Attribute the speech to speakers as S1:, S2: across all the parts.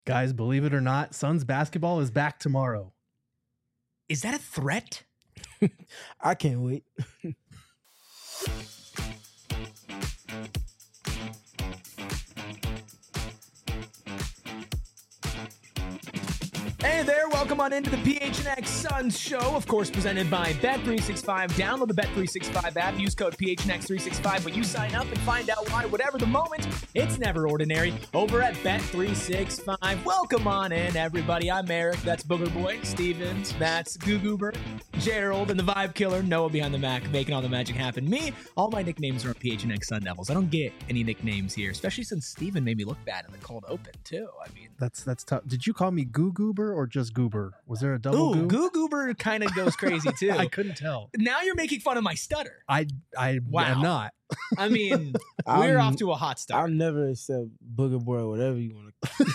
S1: Guys, believe it or not, Suns basketball is back tomorrow.
S2: Is that a threat?
S3: I can't wait.
S2: Hey there, welcome on into the PHNX Suns show, of course presented by Bet365. Download the Bet365 app, use code PHNX365 when you sign up and find out why, whatever the moment, it's never ordinary over at Bet365. Welcome on in, everybody. I'm Eric, that's Booger Boy. Stevens, that's Goo Gerald, and the Vibe Killer, Noah behind the Mac, making all the magic happen. Me, all my nicknames are PHNX Sun Devils. I don't get any nicknames here, especially since Steven made me look bad in the cold open, too. I mean,
S1: That's tough. Did you call me Goo Goober or just Goober? Was there a double
S2: ooh,
S1: goo?
S2: Goober kind of goes crazy, too.
S1: I couldn't tell.
S2: Now you're making fun of my stutter.
S1: I
S2: Wow.
S1: am not.
S2: I mean, we're off to a hot
S3: I'll
S2: start.
S3: never accept Booger Boy or whatever you want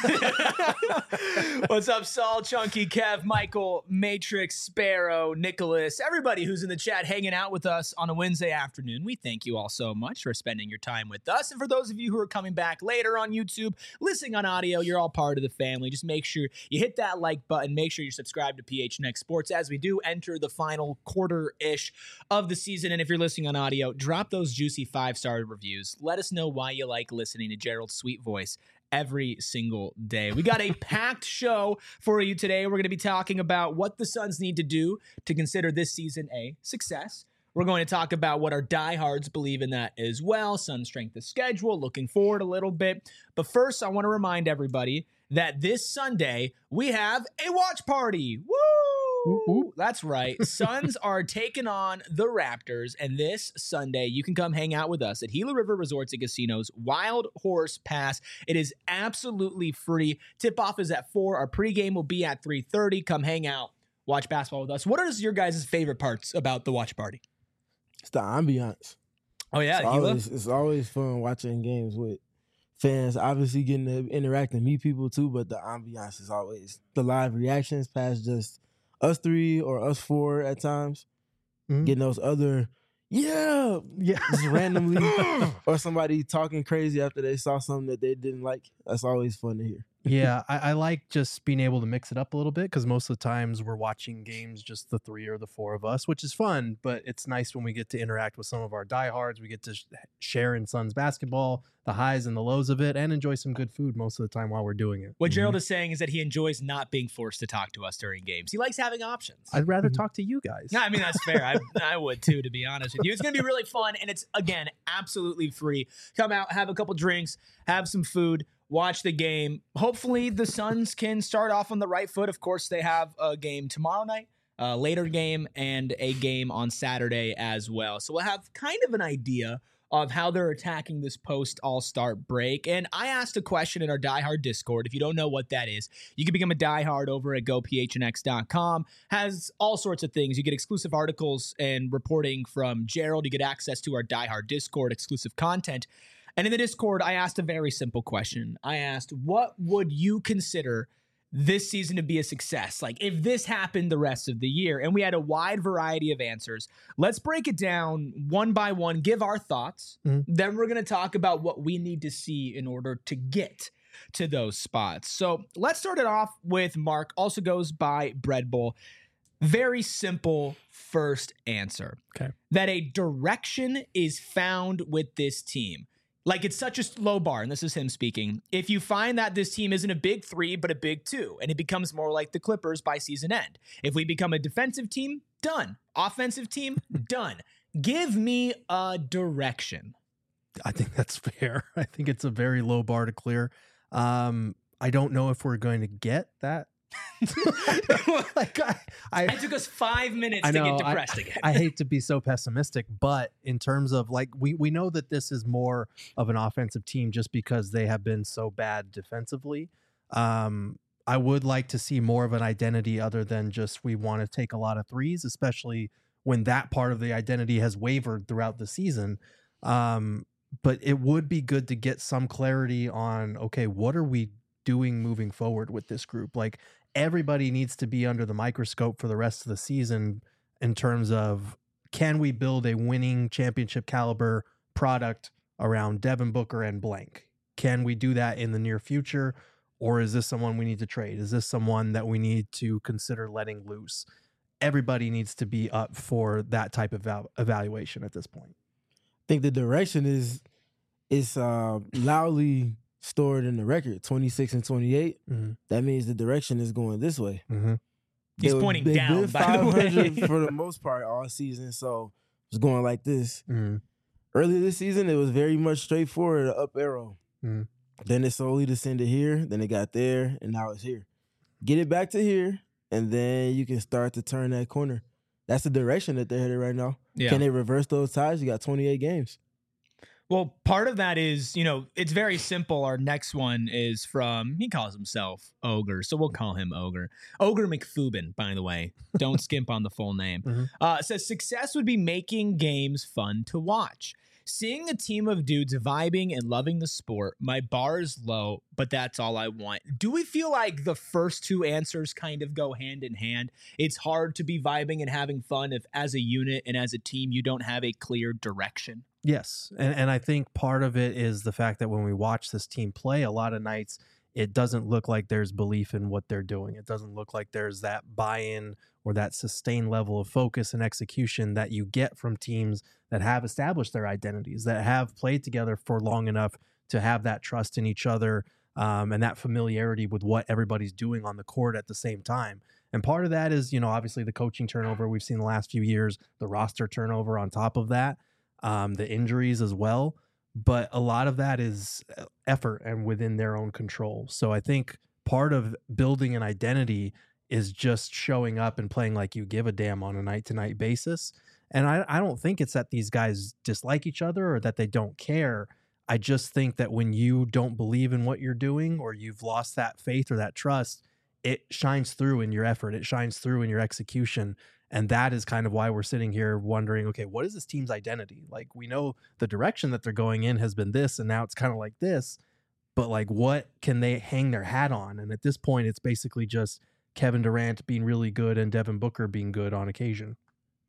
S3: to.
S2: What's up, Saul, Chunky, Kev, Michael, Matrix, Sparrow, Nicholas, everybody who's in the chat hanging out with us on a Wednesday afternoon. We thank you all so much for spending your time with us. And for those of you who are coming back later on YouTube, listening on audio, you're all part of the family. Just make sure you hit that like button. Make sure you're subscribed to PHNX Sports as we do enter the final quarter-ish of the season. And if you're listening on audio, drop those juicy 5-star reviews. Let us know why you like listening to Gerald's sweet voice every single day. We got a packed show for you today. We're going to be talking about what the Suns need to do to consider this season a success. We're going to talk about what our diehards believe in that as well. Suns strength of schedule, looking forward a little bit. But first, I want to remind everybody that this Sunday, we have a watch party. Woo!
S1: Whoop, whoop.
S2: That's right. Suns are taking on the Raptors, and this Sunday, you can come hang out with us at Gila River Resorts and Casinos Wild Horse Pass. It is absolutely free. Tip-off is at 4. Our pregame will be at 3:30. Come hang out, watch basketball with us. What are your guys' favorite parts about the watch party?
S3: It's the ambiance.
S2: Oh, yeah, Gila?
S3: It's always fun watching games with fans. Obviously getting to interact and meet people too, but the ambiance is always the live reactions past just us 3 or us 4 at times.
S1: Mhm.
S3: Getting those other, yeah, just randomly, or somebody talking crazy after they saw something that they didn't like. That's always fun to hear.
S1: Yeah, I like just being able to mix it up a little bit because most of the times we're watching games just the 3 or the 4 of us, which is fun, but it's nice when we get to interact with some of our diehards. We get to share in Suns basketball, the highs and the lows of it, and enjoy some good food most of the time while we're doing it.
S2: What Gerald is saying is that he enjoys not being forced to talk to us during games. He likes having options.
S1: I'd rather talk to you guys.
S2: Yeah, I mean, that's fair. I would too, to be honest with you. It's going to be really fun, and it's, again, absolutely free. Come out, have a couple drinks, have some food, watch the game. Hopefully, the Suns can start off on the right foot. Of course, they have a game tomorrow night, a later game, and a game on Saturday as well. So we'll have kind of an idea of how they're attacking this post-All-Star break. And I asked a question in our Diehard Discord. If you don't know what that is, you can become a diehard over at gophnx.com. Has all sorts of things. You get exclusive articles and reporting from Gerald. You get access to our Diehard Discord, exclusive content. And in the Discord, I asked a very simple question. I asked, what would you consider this season to be a success? Like, if this happened the rest of the year, and we had a wide variety of answers. Let's break it down one by one, give our thoughts. Then we're going to talk about what we need to see in order to get to those spots. So let's start it off with Mark, also goes by Bread Bowl. Very simple first answer.
S1: Okay.
S2: That a direction is found with this team. Like, it's such a low bar, and this is him speaking. If you find that this team isn't a big 3, but a big 2, and it becomes more like the Clippers by season end. If we become a defensive team, done. Offensive team, done. Give me a direction.
S1: I think that's fair. I think it's a very low bar to clear. I don't know if we're going to get that. Like
S2: It took us 5 minutes
S1: I
S2: to
S1: know,
S2: get depressed again.
S1: I hate to be so pessimistic, but in terms of like, we know that this is more of an offensive team just because they have been so bad defensively. I would like to see more of an identity other than just we want to take a lot of threes, especially when that part of the identity has wavered throughout the season. But it would be good to get some clarity on, okay, what are we doing moving forward with this group? Like, everybody needs to be under the microscope for the rest of the season in terms of, can we build a winning championship caliber product around Devin Booker and blank? Can we do that in the near future? Or is this someone we need to trade? Is this someone that we need to consider letting loose? Everybody needs to be up for that type of evaluation at this point.
S3: I think the direction is loudly stored in the record, 26 and 28.
S1: Mm-hmm.
S3: That means the direction is going this way.
S1: Mm-hmm.
S2: He's pointing down,
S3: been
S2: by the way.
S3: 500 for the most part all season, so it's going like this.
S1: Mm-hmm.
S3: Earlier this season, it was very much straightforward, an up arrow.
S1: Mm-hmm.
S3: Then it slowly descended here, then it got there, and now it's here. Get it back to here, and then you can start to turn that corner. That's the direction that they're headed right now.
S2: Yeah.
S3: Can they reverse those ties? You got 28 games.
S2: Well, part of that is, it's very simple. Our next one is from, he calls himself Ogre, so we'll call him Ogre. Ogre McFubin, by the way. Don't skimp on the full name.
S1: Mm-hmm.
S2: Says, success would be making games fun to watch. Seeing a team of dudes vibing and loving the sport, my bar is low, but that's all I want. Do we feel like the first two answers kind of go hand in hand? It's hard to be vibing and having fun if as a unit and as a team you don't have a clear direction.
S1: Yes. And I think part of it is the fact that when we watch this team play, a lot of nights, it doesn't look like there's belief in what they're doing. It doesn't look like there's that buy-in or that sustained level of focus and execution that you get from teams that have established their identities, that have played together for long enough to have that trust in each other and that familiarity with what everybody's doing on the court at the same time. And part of that is, obviously the coaching turnover we've seen the last few years, the roster turnover on top of that, the injuries as well. But a lot of that is effort and within their own control. So I think part of building an identity is just showing up and playing like you give a damn on a night-to-night basis. And I don't think it's that these guys dislike each other or that they don't care. I just think that when you don't believe in what you're doing or you've lost that faith or that trust, it shines through in your effort. It shines through in your execution. And that is kind of why we're sitting here wondering, okay, what is this team's identity? Like, we know the direction that they're going in has been this, and now it's kind of like this, but like, what can they hang their hat on? And at this point, it's basically just Kevin Durant being really good and Devin Booker being good on occasion.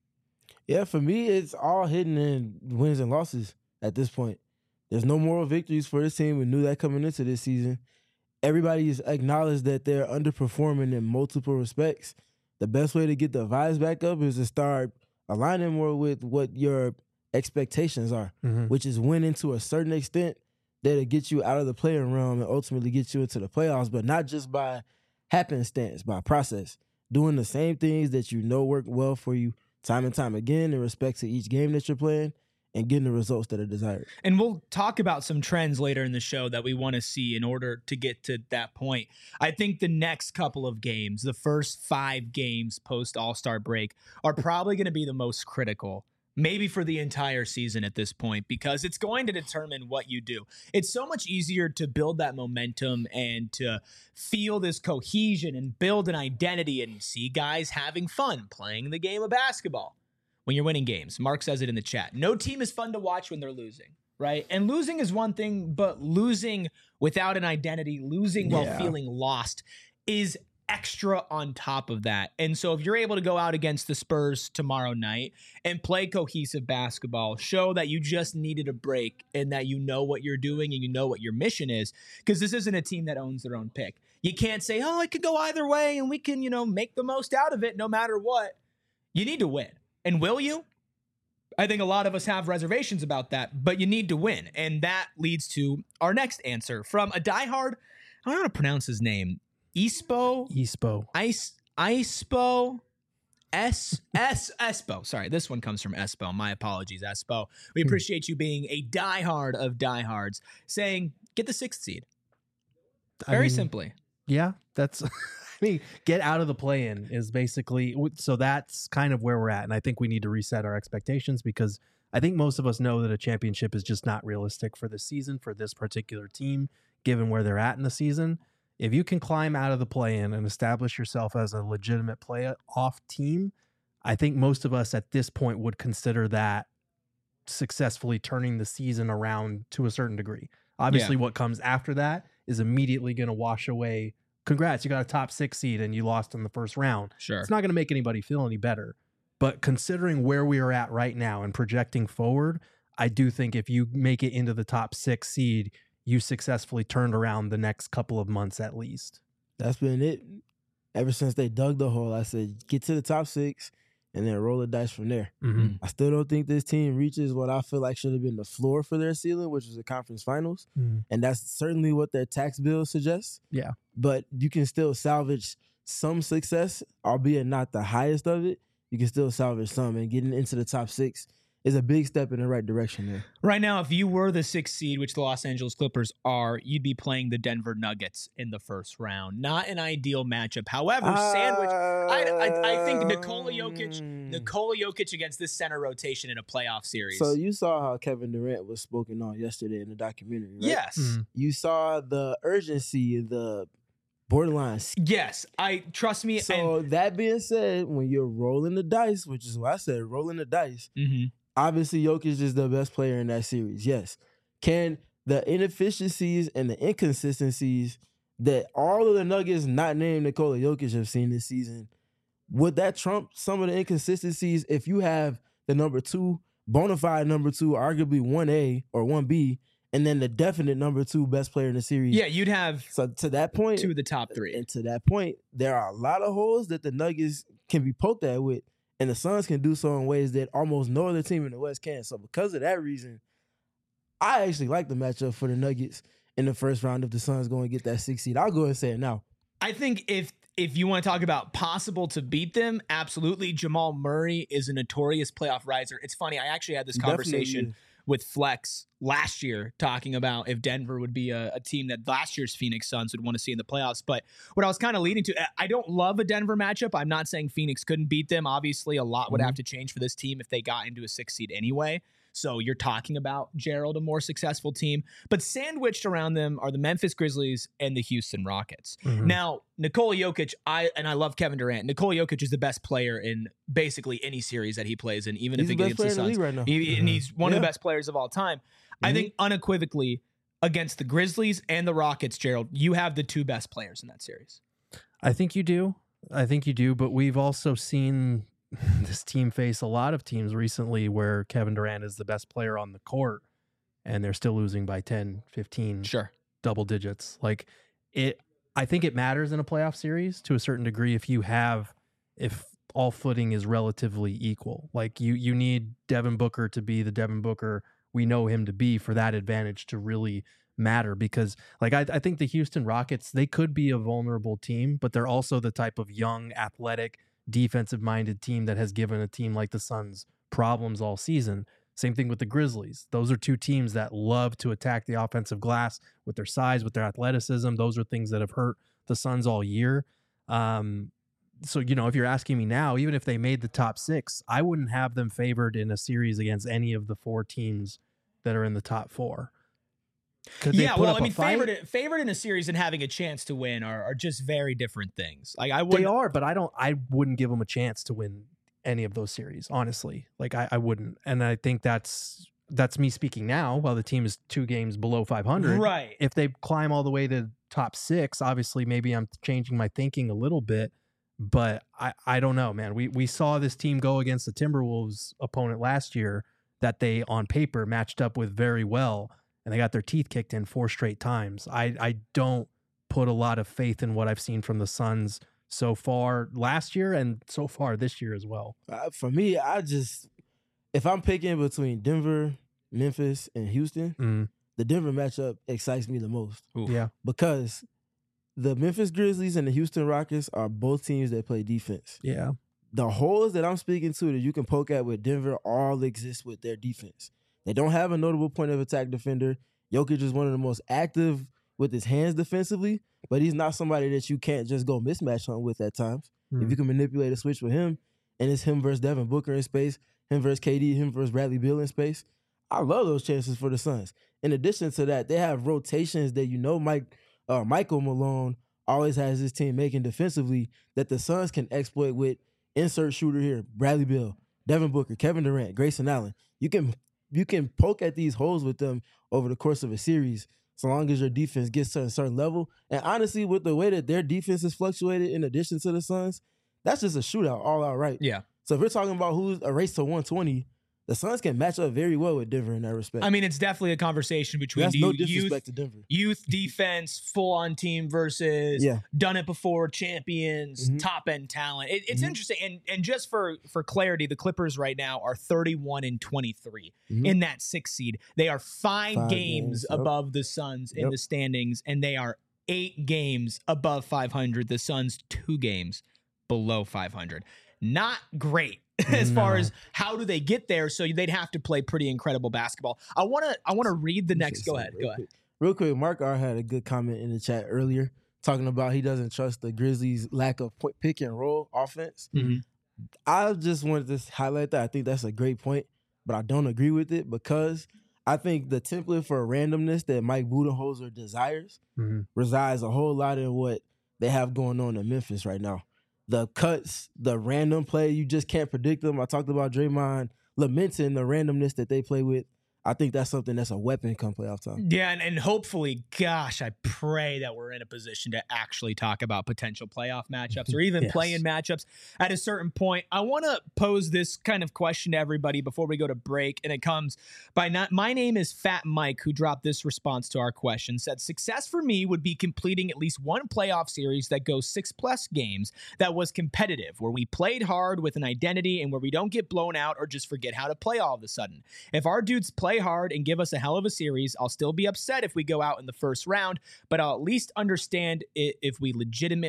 S3: Yeah, for me, it's all hidden in wins and losses at this point. There's no moral victories for this team. We knew that coming into this season. Everybody has acknowledged that they're underperforming in multiple respects. The best way to get the vibes back up is to start aligning more with what your expectations are, which is winning to a certain extent that'll get you out of the playing realm and ultimately get you into the playoffs, but not just by happenstance, by process. Doing the same things that you know work well for you time and time again in respect to each game that you're playing and getting the results that are desired.
S2: And we'll talk about some trends later in the show that we want to see in order to get to that point. I think the next couple of games, the first 5 games post All-Star break, are probably going to be the most critical, maybe for the entire season at this point, because it's going to determine what you do. It's so much easier to build that momentum and to feel this cohesion and build an identity and see guys having fun playing the game of basketball when you're winning games. Mark says it in the chat. No team is fun to watch when they're losing, right? And losing is one thing, but losing without an identity, losing while feeling lost is extra on top of that. And so if you're able to go out against the Spurs tomorrow night and play cohesive basketball, show that you just needed a break and that you know what you're doing and you know what your mission is, because this isn't a team that owns their own pick. You can't say, oh, it could go either way and we can, make the most out of it no matter what. You need to win. And will you? I think a lot of us have reservations about that, but you need to win. And that leads to our next answer from a diehard, I don't know how to pronounce his name. Espo. Sorry, this one comes from Espo. My apologies, Espo. We appreciate you being a diehard of diehards, saying, get the 6th seed. Very simply.
S1: Yeah, that's... get out of the play-in is basically, so that's kind of where we're at. And I think we need to reset our expectations because I think most of us know that a championship is just not realistic for this season, for this particular team, given where they're at in the season. If you can climb out of the play-in and establish yourself as a legitimate playoff team, I think most of us at this point would consider that successfully turning the season around to a certain degree. Obviously, what comes after that is immediately going to wash away. Congrats, you got a top 6 seed and you lost in the first round.
S2: Sure.
S1: It's not going to make anybody feel any better. But considering where we are at right now and projecting forward, I do think if you make it into the top 6 seed, you successfully turned around the next couple of months at least.
S3: That's been it. Ever since they dug the hole, I said, get to the top 6 and then roll the dice from there.
S1: Mm-hmm.
S3: I still don't think this team reaches what I feel like should have been the floor for their ceiling, which was the conference finals.
S1: Mm-hmm.
S3: And that's certainly what their tax bill suggests.
S1: Yeah.
S3: But you can still salvage some success, albeit not the highest of it. You can still salvage some, and getting into the top 6 is a big step in the right direction there.
S2: Right now, if you were the 6th seed, which the Los Angeles Clippers are, you'd be playing the Denver Nuggets in the first round. Not an ideal matchup. However, sandwich. I think Nikola Jokic against this center rotation in a playoff series.
S3: So you saw how Kevin Durant was spoken on yesterday in the documentary, right?
S2: Yes.
S1: Mm-hmm.
S3: You saw the urgency, the borderline.
S2: Yes. Trust me.
S3: So that being said, when you're rolling the dice, which is what I said, rolling the dice, obviously Jokic is the best player in that series. Yes. Can the inefficiencies and the inconsistencies that all of the Nuggets not named Nikola Jokic have seen this season, would that trump some of the inconsistencies if you have the number 2, bona fide number 2, arguably 1A or 1B, and then the definite number 2 best player in the series?
S2: Yeah, you'd have
S3: So to that point,
S2: 2 of the top 3.
S3: and to that point, there are a lot of holes that the Nuggets can be poked at with, and the Suns can do so in ways that almost no other team in the West can. So because of that reason, I actually like the matchup for the Nuggets in the first round if the Suns go and get that 6th seed. I'll go ahead and say it now.
S2: I think if you want to talk about possible to beat them, absolutely. Jamal Murray is a notorious playoff riser. It's funny. I actually had this conversation with Flex last year talking about if Denver would be a team that last year's Phoenix Suns would want to see in the playoffs. But what I was kind of leading to, I don't love a Denver matchup. I'm not saying Phoenix couldn't beat them. Obviously, a lot would have to change for this team if they got into a 6th seed anyway. So you're talking about, Gerald, a more successful team. But sandwiched around them are the Memphis Grizzlies and the Houston Rockets. Now, Nikola Jokic, I love Kevin Durant. Nikola Jokic is the best player in basically any series that he plays in, even if it gets the Suns.
S3: Right now.
S2: And he's one of the best players of all time. I think unequivocally against the Grizzlies and the Rockets, Gerald, you have the 2 best players in that series.
S1: I think you do. But we've also seen this team face a lot of teams recently where Kevin Durant is the best player on the court and they're still losing by 10, 15, double digits. I think it matters in a playoff series to a certain degree if all footing is relatively equal. Like you need Devin Booker to be the Devin Booker we know him to be for that advantage to really matter, because I think the Houston Rockets, they could be a vulnerable team, but they're also the type of young, athletic, defensive-minded team that has given a team like the Suns problems all season. Same thing with the Grizzlies. Those are 2 teams that love to attack the offensive glass with their size, with their athleticism. Those are things that have hurt the Suns all year. So, if you're asking me now, even if they made the top 6, I wouldn't have them favored in a series against any of the 4 teams that are in the top 4.
S2: Favored in a series and having a chance to win are just very different things.
S1: They are, but I wouldn't give them a chance to win any of those series, honestly. I wouldn't. And I think that's me speaking now while the team is 2 games below 500.
S2: Right.
S1: If they climb all the way to top 6, obviously maybe I'm changing my thinking a little bit, but I don't know, man. We saw this team go against the Timberwolves opponent last year that they on paper matched up with very well, and they got their teeth kicked in 4 straight times. I don't put a lot of faith in what I've seen from the Suns so far last year and so far this year as well.
S3: For me, if I'm picking between Denver, Memphis, and Houston, the Denver matchup excites me the most.
S2: Oof.
S1: Yeah.
S3: Because the Memphis Grizzlies and the Houston Rockets are both teams that play defense.
S1: Yeah.
S3: The holes that I'm speaking to that you can poke at with Denver all exist with their defense. They don't have a notable point of attack defender. Jokic is one of the most active with his hands defensively, but he's not somebody that you can't just go mismatch hunt with at times. If you can manipulate a switch with him, and it's him versus Devin Booker in space, him versus KD, him versus Bradley Beal in space, I love those chances for the Suns. In addition to that, they have rotations that Michael Malone always has his team making defensively that the Suns can exploit with insert shooter here, Bradley Beal, Devin Booker, Kevin Durant, Grayson Allen. You can poke at these holes with them over the course of a series so long as your defense gets to a certain level. And honestly, with the way that their defense has fluctuated in addition to the Suns, that's just a shootout all out, right?
S2: Yeah.
S3: So if we're talking about who's a race to 120, the Suns can match up very well with Denver in that respect.
S2: I mean, it's definitely a conversation between
S3: That's no disrespect to Denver.
S2: Youth defense, full-on team versus done it before champions, top-end talent. It's interesting. And just for clarity, the Clippers right now are 31-23 in that 6th seed. They are 5 games above the Suns in the standings, and they are 8 games above 500. The Suns 2 games below 500. Not great as far as how do they get there. So they'd have to play pretty incredible basketball. I want to read the next. Go ahead.
S3: Real quick, Mark R had a good comment in the chat earlier talking about he doesn't trust the Grizzlies' lack of pick and roll offense. I just wanted to highlight that. I think that's a great point, but I don't agree with it because I think the template for randomness that Mike Budenholzer desires resides a whole lot in what they have going on in Memphis right now. The cuts, the random play, you just can't predict them. I talked about Draymond lamenting the randomness that they play with. I think that's something that's a weapon come playoff time.
S2: Yeah, and hopefully, gosh, I pray that we're in a position to actually talk about potential playoff matchups or even play-in matchups at a certain point. I want to pose this kind of question to everybody before we go to break, and it comes by my name is Fat Mike, who dropped this response to our question, said, success for me would be completing at least one playoff series that goes 6+ games that was competitive, where we played hard with an identity and where we don't get blown out or just forget how to play all of a sudden. If our dudes play hard and give us a hell of a series, I'll still be upset if we go out in the first round, but I'll at least understand it if we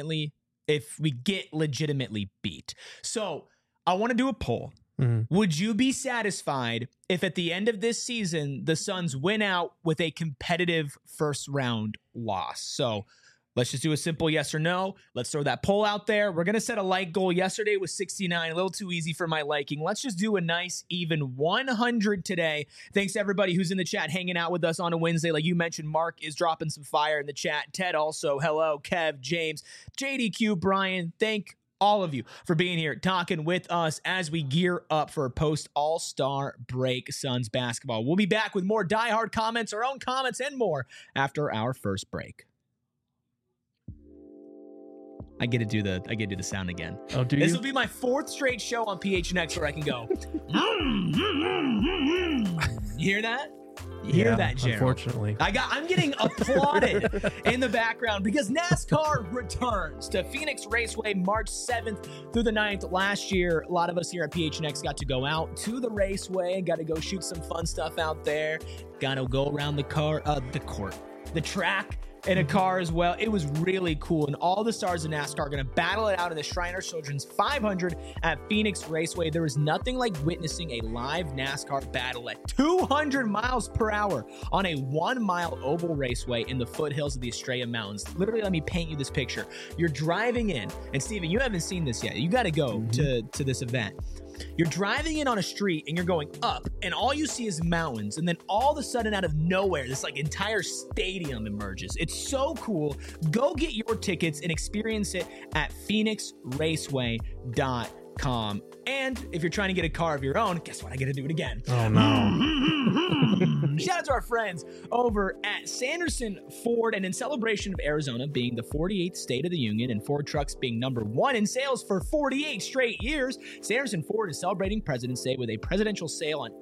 S2: get legitimately beat. So I want to do a poll. Would you be satisfied if at the end of this season, the Suns win out with a competitive first round loss? So let's just do a simple yes or no. Let's throw that poll out there. We're going to set a like goal. Yesterday was 69, a little too easy for my liking. Let's just do a nice even 100 today. Thanks to everybody who's in the chat hanging out with us on a Wednesday. Like you mentioned, Mark is dropping some fire in the chat. Ted also, hello. Kev, James, JDQ, Brian, thank all of you for being here, talking with us as we gear up for post-All-Star break Suns basketball. We'll be back with more diehard comments, our own comments, and more after our first break. I get to do the sound again.
S1: Oh, do
S2: This
S1: you?
S2: will be my 4th straight show on PHNX where I can go. You hear that? You hear that, Gerald?
S1: Unfortunately.
S2: I'm getting applauded in the background because NASCAR returns to Phoenix Raceway March 7th through the 9th. Last year, a lot of us here at PHNX got to go out to the raceway and got to go shoot some fun stuff out there. Got to go around the track in a car as well. It was really cool. And all the stars of NASCAR are going to battle it out in the Shriner Children's 500 at Phoenix Raceway. There is nothing like witnessing a live NASCAR battle at 200 miles per hour on a 1-mile oval raceway in the foothills of the Estrella Mountains. Literally, let me paint you this picture. You're driving in, and Steven, you haven't seen this yet. You got to go to this event. You're driving in on a street and you're going up and all you see is mountains. And then all of a sudden out of nowhere, this like entire stadium emerges. It's so cool. Go get your tickets and experience it at phoenixraceway.com. And if you're trying to get a car of your own, guess what? I get to do it again.
S1: Oh, no.
S2: Shout out to our friends over at Sanderson Ford. And in celebration of Arizona being the 48th state of the union and Ford trucks being #1 in sales for 48 straight years, Sanderson Ford is celebrating President's Day with a presidential sale on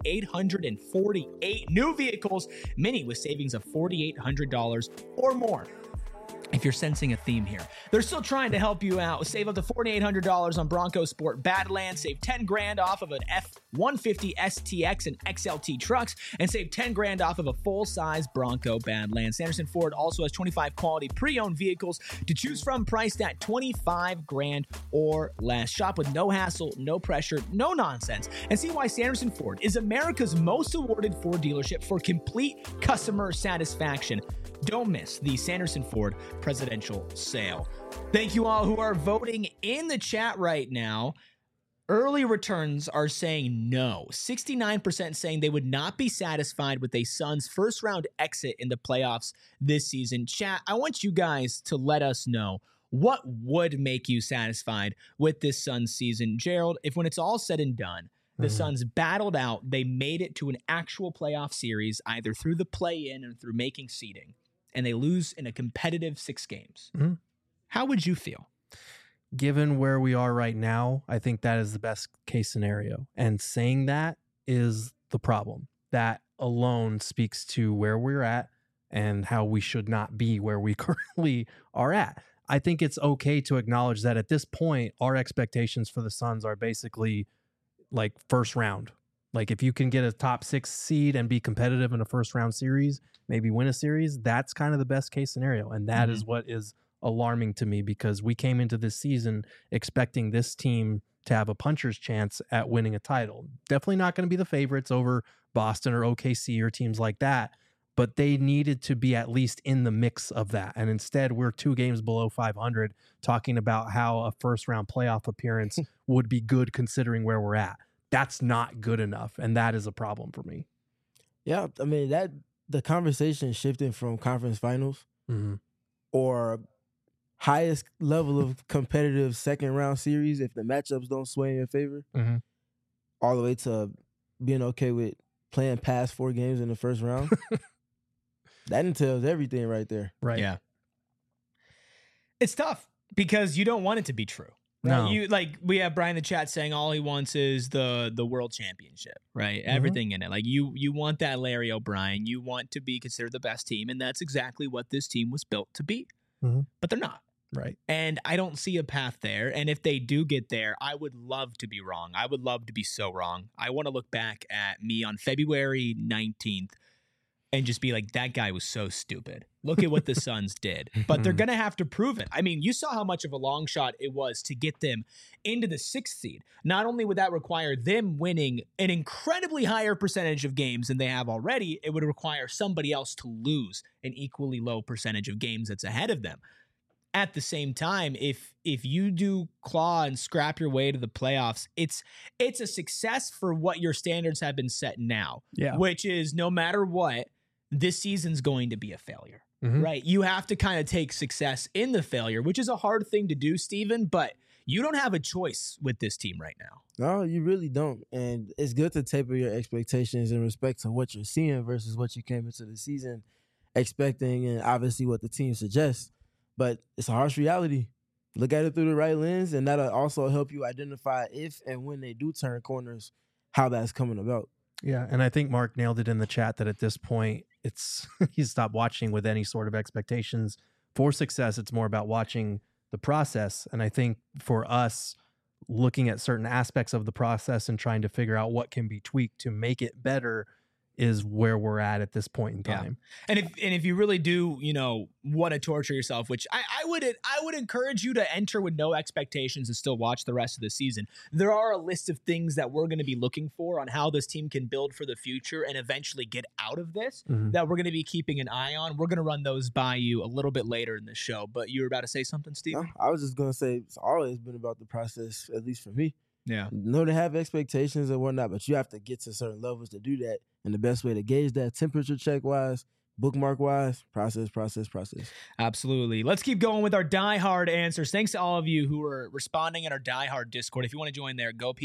S2: 848 new vehicles, many with savings of $4,800 or more. If you're sensing a theme here, they're still trying to help you out. Save up to $4,800 on Bronco Sport Badlands. Save $10,000 off of an F-150 STX and XLT trucks, and save $10,000 off of a full-size Bronco Badlands. Sanderson Ford also has 25 quality pre-owned vehicles to choose from, priced at $25,000 or less. Shop with no hassle, no pressure, no nonsense, and see why Sanderson Ford is America's most awarded Ford dealership for complete customer satisfaction. Don't miss the Sanderson Ford presidential sale. Thank you all who are voting in the chat right now. Early returns are saying no. 69% saying they would not be satisfied with a Suns first round exit in the playoffs this season. Chat, I want you guys to let us know what would make you satisfied with this Suns season. Gerald, if when it's all said and done, the Suns battled out, they made it to an actual playoff series, either through the play-in or through making seeding, and they lose in a competitive 6 games. How would you feel?
S1: Given where we are right now, I think that is the best case scenario. And saying that, is the problem. That alone speaks to where we're at and how we should not be where we currently are at. I think it's okay to acknowledge that at this point, our expectations for the Suns are basically like first round. Like if you can get a top 6 seed and be competitive in a first round series, maybe win a series, that's kind of the best case scenario. And that is what is alarming to me, because we came into this season expecting this team to have a puncher's chance at winning a title. Definitely not going to be the favorites over Boston or OKC or teams like that, but they needed to be at least in the mix of that. And instead, we're 2 games below 500 talking about how a first round playoff appearance would be good considering where we're at. That's not good enough. And that is a problem for me.
S3: Yeah. I mean, that the conversation shifting from conference finals or highest level of competitive second round series, if the matchups don't sway in your favor, all the way to being okay with playing past 4 games in the first round. That entails everything right there.
S1: Right.
S2: Yeah. It's tough because you don't want it to be true. Right?
S1: No.
S2: You we have Brian in the chat saying all he wants is the world championship, right? Everything in it. Like you want that Larry O'Brien. You want to be considered the best team, and that's exactly what this team was built to be. But they're not.
S1: Right.
S2: And I don't see a path there. And if they do get there, I would love to be wrong. I would love to be so wrong. I want to look back at me on February 19th and just be like, that guy was so stupid. Look at what the Suns did. But they're going to have to prove it. I mean, you saw how much of a long shot it was to get them into the 6th seed. Not only would that require them winning an incredibly higher percentage of games than they have already, it would require somebody else to lose an equally low percentage of games that's ahead of them. At the same time, if you do claw and scrap your way to the playoffs, it's a success for what your standards have been set now.
S1: Yeah.
S2: Which is no matter what, this season's going to be a failure, right? You have to kind of take success in the failure, which is a hard thing to do, Steven, but you don't have a choice with this team right now.
S3: No, you really don't. And it's good to taper your expectations in respect to what you're seeing versus what you came into the season expecting and obviously what the team suggests. But it's a harsh reality. Look at it through the right lens, and that'll also help you identify if and when they do turn corners, how that's coming about.
S1: Yeah, and I think Mark nailed it in the chat that at this point, it's he's stopped watching with any sort of expectations for success. It's more about watching the process. And I think for us, looking at certain aspects of the process and trying to figure out what can be tweaked to make it better is where we're at this point in time.
S2: And if you really do, want to torture yourself, which I would encourage you to enter with no expectations and still watch the rest of the season. There are a list of things that we're going to be looking for on how this team can build for the future and eventually get out of this that we're going to be keeping an eye on. We're going to run those by you a little bit later in the show, but you were about to say something, Steve?
S3: No, I was just going to say it's always been about the process, at least for me.
S2: Yeah.
S3: No, they have expectations and whatnot, but you have to get to certain levels to do that. And the best way to gauge that, temperature check wise, bookmark wise, process.
S2: Absolutely. Let's keep going with our diehard answers. Thanks to all of you who are responding in our diehard Discord. If you want to join there, go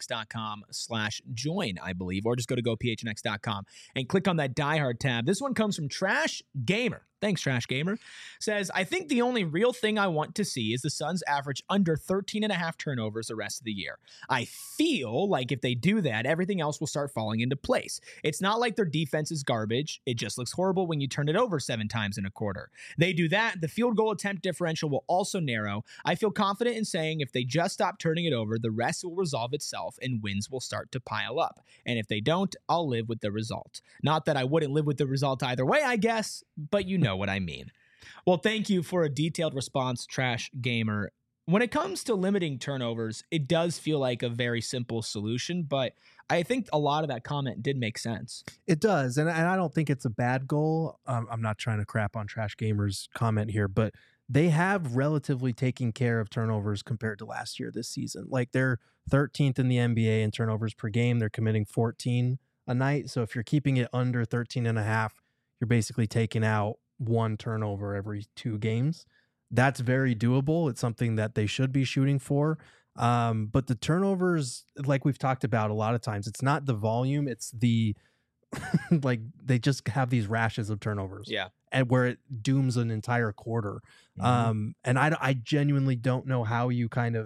S2: phnx.com/join, I believe, or just go to gophnx.com and click on that diehard tab. This one comes from Trash Gamer. Thanks, Trash Gamer. Says, I think the only real thing I want to see is the Suns average under 13.5 turnovers the rest of the year. I feel like if they do that, everything else will start falling into place. It's not like their defense is garbage. It just looks horrible when you turn it over 7 times in a quarter. They do that, the field goal attempt differential will also narrow. I feel confident in saying if they just stop turning it over, the rest will resolve itself and wins will start to pile up. And if they don't, I'll live with the result. Not that I wouldn't live with the result either way, I guess, but you know what I mean. Well, thank you for a detailed response, Trash Gamer. When it comes to limiting turnovers, it does feel like a very simple solution, but I think a lot of that comment did make sense.
S1: It does, and I don't think it's a bad goal. I'm not trying to crap on Trash Gamer's comment here, but they have relatively taken care of turnovers compared to last year this season. Like they're 13th in the NBA in turnovers per game. They're committing 14 a night. So if you're keeping it under 13.5, you're basically taking out 1 turnover every 2 games. That's very doable. It's something that they should be shooting for. But the turnovers, like we've talked about a lot of times, it's not the volume, it's the like they just have these rashes of turnovers.
S2: Yeah.
S1: And where it dooms an entire quarter. And I genuinely don't know how you kind of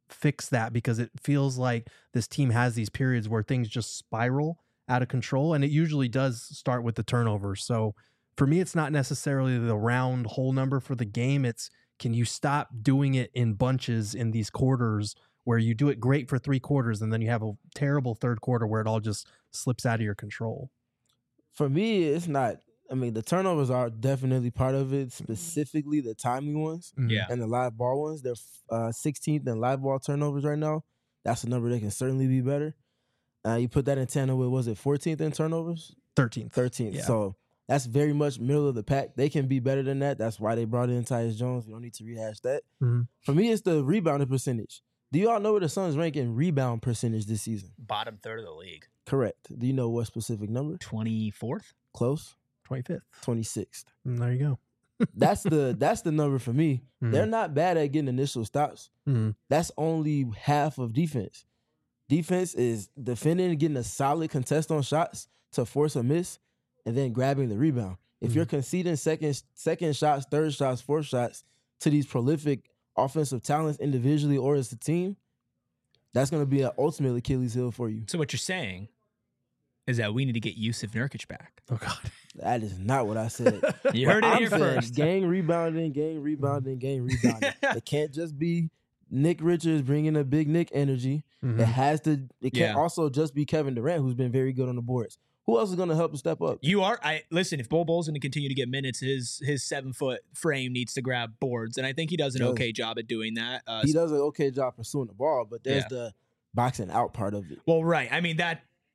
S1: fix that, because it feels like this team has these periods where things just spiral out of control, and it usually does start with the turnovers. So for me, it's not necessarily the round whole number for the game. It's, can you stop doing it in bunches in these quarters where you do it great for 3 quarters and then you have a terrible third quarter where it all just slips out of your control?
S3: For me, it's not. I mean, the turnovers are definitely part of it, specifically the timely ones
S2: Yeah.
S3: and the live ball ones. They're 16th in live ball turnovers right now. That's a number that can certainly be better. You put that in tandem with, was it 14th in turnovers?
S1: 13th.
S3: 13th.
S1: Yeah.
S3: So that's very much middle of the pack. They can be better than that. That's why they brought in Tyus Jones. We don't need to rehash that. For me, it's the rebounding percentage. Do you all know where the Suns rank in rebound percentage this season?
S2: Bottom third of the league.
S3: Correct. Do you know what specific number?
S2: 24th?
S3: Close.
S1: 25th.
S3: 26th.
S1: There you go.
S3: That's the number for me. They're not bad at getting initial stops. That's only half of defense. Defense is defending and getting a solid contest on shots to force a miss, and then grabbing the rebound. If you're conceding second shots, third shots, fourth shots to these prolific offensive talents individually or as a team, that's going to be an ultimate Achilles heel for you.
S2: So what you're saying is that we need to get Yusuf Nurkic back.
S1: Oh, God.
S3: That is not what I said.
S2: You heard it
S3: I'm
S2: here
S3: saying
S2: first.
S3: Gang rebounding. It can't just be Nick Richards bringing a big Nick energy.
S1: Mhm.
S3: It can't also just be Kevin Durant, who's been very good on the boards. Who else is going to help him step up?
S2: Listen, if Bol Bol's going to continue to get minutes, his 7-foot frame needs to grab boards, and I think he does an okay job at doing that.
S3: He does an okay job pursuing the ball, but there's the boxing out part of it.
S2: Well, right. I mean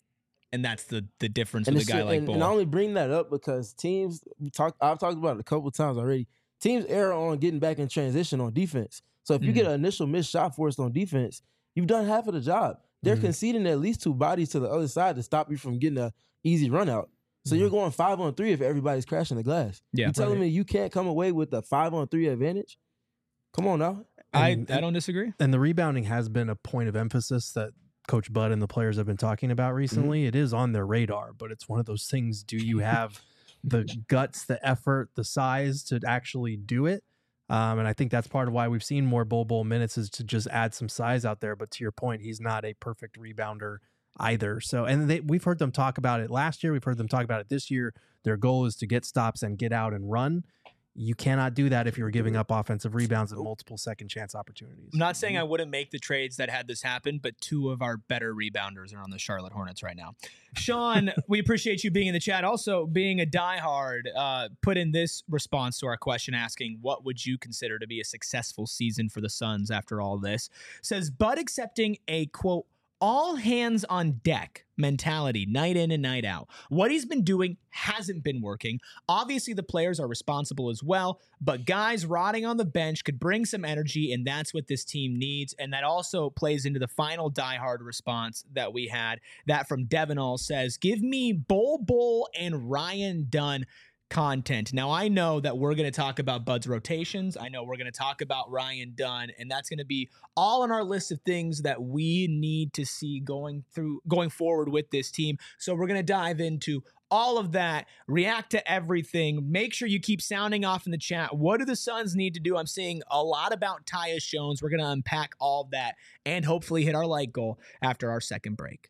S2: that's the difference with a guy like Bol.
S3: And I only bring that up because teams I've talked about it a couple of times already. Teams err on getting back in transition on defense. So if you get an initial missed shot forced on defense, you've done half of the job. They're conceding at least 2 bodies to the other side to stop you from getting a easy run out. So you're going 5-on-3 if everybody's crashing the glass.
S2: Yeah.
S3: You telling me you can't come away with a 5-on-3 advantage? Come on now.
S2: I don't disagree.
S1: And the rebounding has been a point of emphasis that Coach Bud and the players have been talking about recently. It is on their radar, but it's one of those things. Do you have the guts, the effort, the size to actually do it? And I think that's part of why we've seen more Bol minutes, is to just add some size out there. But to your point, he's not a perfect rebounder either. So, and we've heard them talk about it last year. We've heard them talk about it this year. Their goal is to get stops and get out and run. You cannot do that if you're giving up offensive rebounds and multiple second chance opportunities.
S2: I'm not saying I wouldn't make the trades that had this happen, but 2 of our better rebounders are on the Charlotte Hornets right now. Sean, we appreciate you being in the chat. Also, being a diehard, put in this response to our question asking, what would you consider to be a successful season for the Suns after all this? Says, Bud accepting a, quote, all hands on deck mentality night in and night out. What he's been doing hasn't been working. Obviously, the players are responsible as well, but guys rotting on the bench could bring some energy, and that's what this team needs. And that also plays into the final diehard response that we had. That from Devin All says, give me Bol and Ryan Dunn content. Now, I know that we're going to talk about Bud's rotations. I know we're going to talk about Ryan Dunn, and that's going to be all on our list of things that we need to see going forward with this team. So we're going to dive into all of that, react to everything. Make sure you keep sounding off in the chat. What do the Suns need to do? I'm seeing a lot about Tyus Jones. We're going to unpack all of that and hopefully hit our like goal after our second break.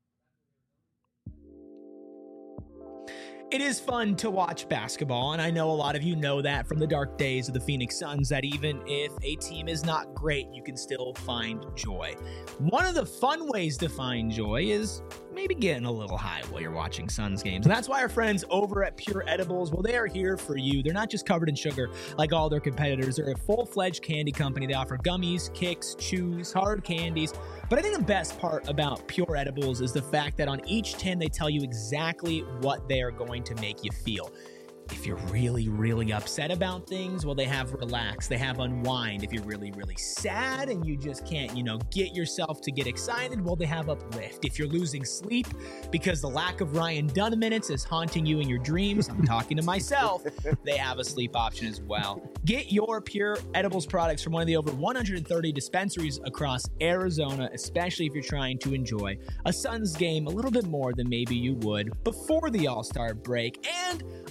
S2: It is fun to watch basketball, and I know a lot of you know that from the dark days of the Phoenix Suns, that even if a team is not great, you can still find joy. One of the fun ways to find joy is maybe getting a little high while you're watching Suns games. And that's why our friends over at Pure Edibles, well, they are here for you. They're not just covered in sugar like all their competitors. They're a full-fledged candy company. They offer gummies, kicks, chews, hard candies. But I think the best part about Pure Edibles is the fact that on each tin, they tell you exactly what they are going to make you feel. If you're really, really upset about things, well, they have Relax. They have Unwind. If you're really, really sad and you just can't, get yourself to get excited, well, they have Uplift. If you're losing sleep because the lack of Ryan Dunn minutes is haunting you in your dreams, I'm talking to myself, they have a sleep option as well. Get your Pure Edibles products from one of the over 130 dispensaries across Arizona, especially if you're trying to enjoy a Suns game a little bit more than maybe you would before the All-Star break. And another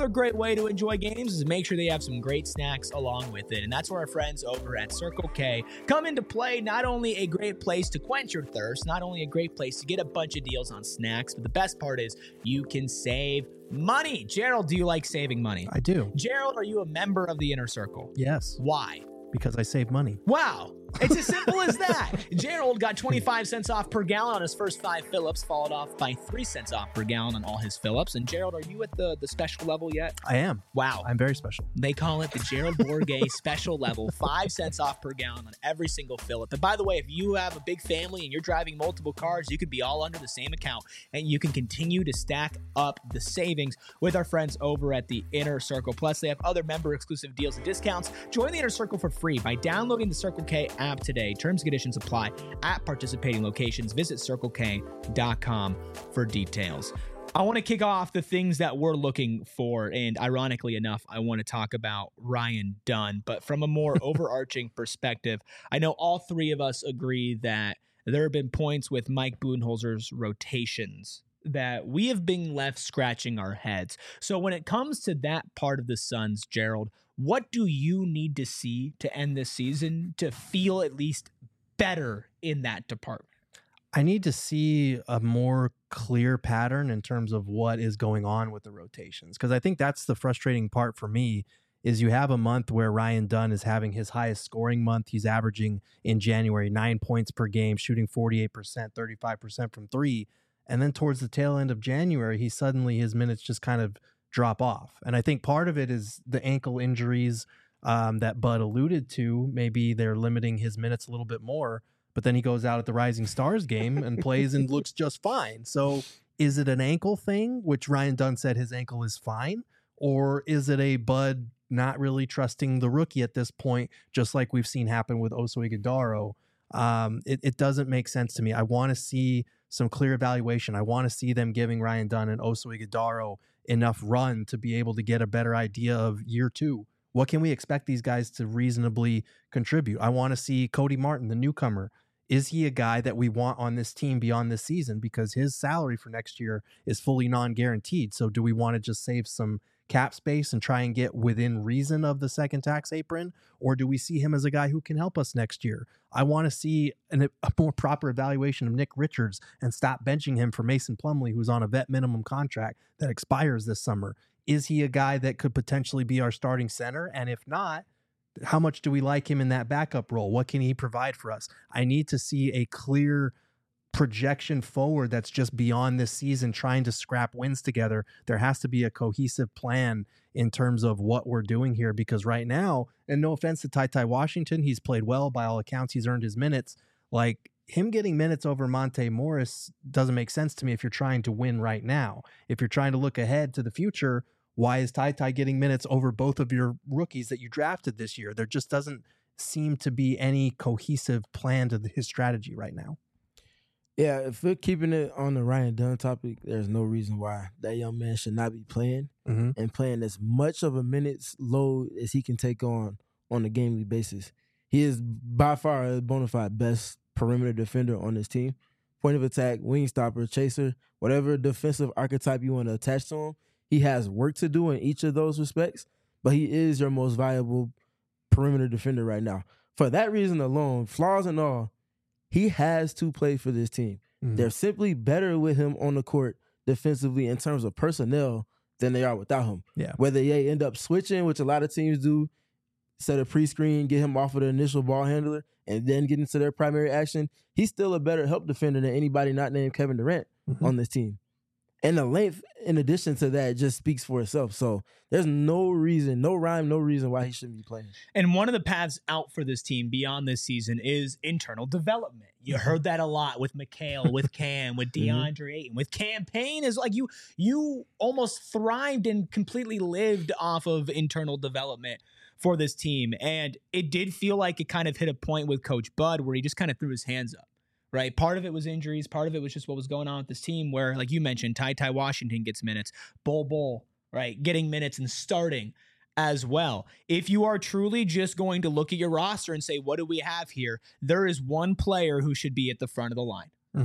S2: great way to enjoy games is make sure they have some great snacks along with it. And that's where our friends over at Circle K come into play. Not only a great place to quench your thirst, not only a great place to get a bunch of deals on snacks, but the best part is you can save money. Gerald, do you like saving money?
S1: I do.
S2: Gerald, are you a member of the Inner Circle?
S1: Yes.
S2: Why?
S1: Because I save money.
S2: Wow. It's as simple as that. Gerald got 25 cents off per gallon on his first 5 fill-ups, followed off by 3 cents off per gallon on all his fill-ups. And Gerald, are you at the special level yet?
S1: I am.
S2: Wow.
S1: I'm very special.
S2: They call it the Gerald Bourguet special level, 5 cents off per gallon on every single fill-up. And by the way, if you have a big family and you're driving multiple cars, you could be all under the same account, and you can continue to stack up the savings with our friends over at the Inner Circle. Plus, they have other member-exclusive deals and discounts. Join the Inner Circle for free by downloading the Circle K app today. Terms and conditions apply at participating locations. Visit CircleK.com for details. I want to kick off the things that we're looking for, and ironically enough, I want to talk about Ryan Dunn, but from a more overarching perspective. I know all three of us agree that there have been points with Mike Budenholzer's rotations that we have been left scratching our heads. So when it comes to that part of the Suns, Gerald, what do you need to see to end this season to feel at least better in that department?
S1: I need to see a more clear pattern in terms of what is going on with the rotations, because I think that's the frustrating part for me is you have a month where Ryan Dunn is having his highest scoring month. He's averaging in January 9 points per game, shooting 48%, 35% from three. And then towards the tail end of January, his minutes just kind of drop off. And I think part of it is the ankle injuries that Bud alluded to. Maybe they're limiting his minutes a little bit more, but then he goes out at the Rising Stars game and plays and looks just fine. So is it an ankle thing, which Ryan Dunn said his ankle is fine, or is it a Bud not really trusting the rookie at this point, just like we've seen happen with Oso Ighodaro? It doesn't make sense to me. I want to see some clear evaluation. I want to see them giving Ryan Dunn and Oso Ighodaro enough run to be able to get a better idea of year two. What can we expect these guys to reasonably contribute? I want to see Cody Martin, the newcomer. Is he a guy that we want on this team beyond this season? Because his salary for next year is fully non-guaranteed. So do we want to just save some cap space and try and get within reason of the second tax apron? Or do we see him as a guy who can help us next year? I want to see a more proper evaluation of Nick Richards and stop benching him for Mason Plumlee, who's on a vet minimum contract that expires this summer. Is he a guy that could potentially be our starting center? And if not, how much do we like him in that backup role? What can he provide for us? I need to see a clear projection forward that's just beyond this season, trying to scrap wins together. There has to be a cohesive plan in terms of what we're doing here, because right now, and no offense to Ty Washington, he's played well. By all accounts, he's earned his minutes. Like, him getting minutes over Monte Morris doesn't make sense to me if you're trying to win right now. If you're trying to look ahead to the future, why is Ty getting minutes over both of your rookies that you drafted this year? There just doesn't seem to be any cohesive plan to his strategy right now.
S3: Yeah, if we're keeping it on the Ryan Dunn topic, there's no reason why that young man should not be playing and playing as much of a minutes load as he can take on a game-week basis. He is by far a bona fide best perimeter defender on this team. Point of attack, wing stopper, chaser, whatever defensive archetype you want to attach to him, he has work to do in each of those respects, but he is your most valuable perimeter defender right now. For that reason alone, flaws and all, he has to play for this team. They're simply better with him on the court defensively in terms of personnel than they are without him.
S1: Yeah.
S3: Whether they end up switching, which a lot of teams do, set a pre-screen, get him off of the initial ball handler, and then get into their primary action, he's still a better help defender than anybody not named Kevin Durant on this team. And the length, in addition to that, just speaks for itself. So there's no reason, no rhyme, no reason why he shouldn't be playing.
S2: And one of the paths out for this team beyond this season is internal development. You heard that a lot with Mikal, with Cam, with DeAndre Ayton, with Cam Payne. Is like you almost thrived and completely lived off of internal development for this team. And it did feel like it kind of hit a point with Coach Bud where he just kind of threw his hands up. Right. Part of it was injuries. Part of it was just what was going on with this team where, like you mentioned, Ty Washington gets minutes, Bol, right, getting minutes and starting as well. If you are truly just going to look at your roster and say, what do we have here? There is one player who should be at the front of the line.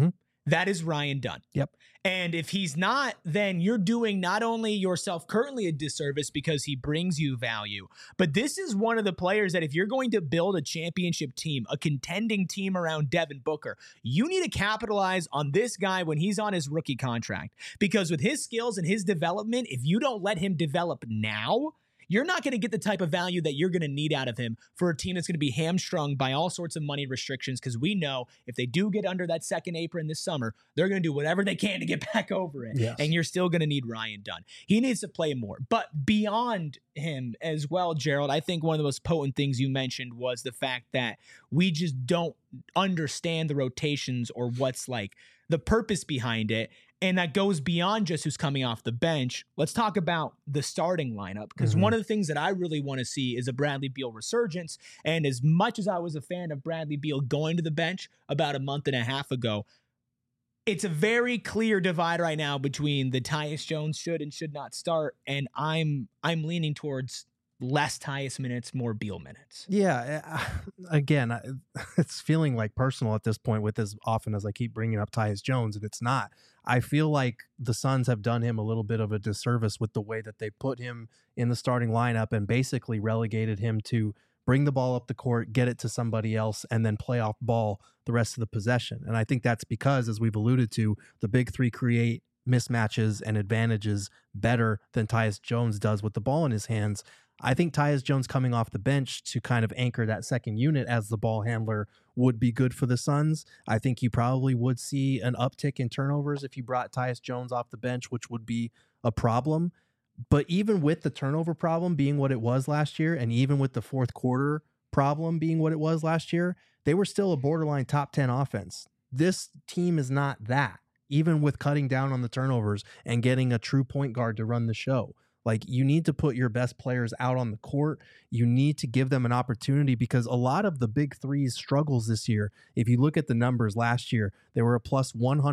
S2: That is Ryan Dunn.
S1: Yep.
S2: And if he's not, then you're doing not only yourself currently a disservice because he brings you value, but this is one of the players that if you're going to build a championship team, a contending team around Devin Booker, you need to capitalize on this guy when he's on his rookie contract. Because with his skills and his development, if you don't let him develop now, you're not going to get the type of value that you're going to need out of him for a team that's going to be hamstrung by all sorts of money restrictions, because we know if they do get under that second apron this summer, they're going to do whatever they can to get back over it.
S1: Yes.
S2: And you're still going to need Ryan Dunn. He needs to play more. But beyond him as well, Gerald, I think one of the most potent things you mentioned was the fact that we just don't understand the rotations or what's like the purpose behind it. And that goes beyond just who's coming off the bench. Let's talk about the starting lineup, because one of the things that I really want to see is a Bradley Beal resurgence. And as much as I was a fan of Bradley Beal going to the bench about a month and a half ago, it's a very clear divide right now between the Tyus Jones should and should not start. And I'm leaning towards less Tyus minutes, more Beal minutes.
S1: Yeah. Again, it's feeling like personal at this point with as often as I keep bringing up Tyus Jones, and it's not. I feel like the Suns have done him a little bit of a disservice with the way that they put him in the starting lineup and basically relegated him to bring the ball up the court, get it to somebody else, and then play off ball the rest of the possession. And I think that's because, as we've alluded to, the big three create mismatches and advantages better than Tyus Jones does with the ball in his hands. I think Tyus Jones coming off the bench to kind of anchor that second unit as the ball handler would be good for the Suns. I think you probably would see an uptick in turnovers if you brought Tyus Jones off the bench, which would be a problem. But even with the turnover problem being what it was last year, and even with the fourth quarter problem being what it was last year, they were still a borderline top 10 offense. This team is not that, even with cutting down on the turnovers and getting a true point guard to run the show. Like, you need to put your best players out on the court. You need to give them an opportunity, because a lot of the big three's struggles this year, if you look at the numbers last year, they were a plus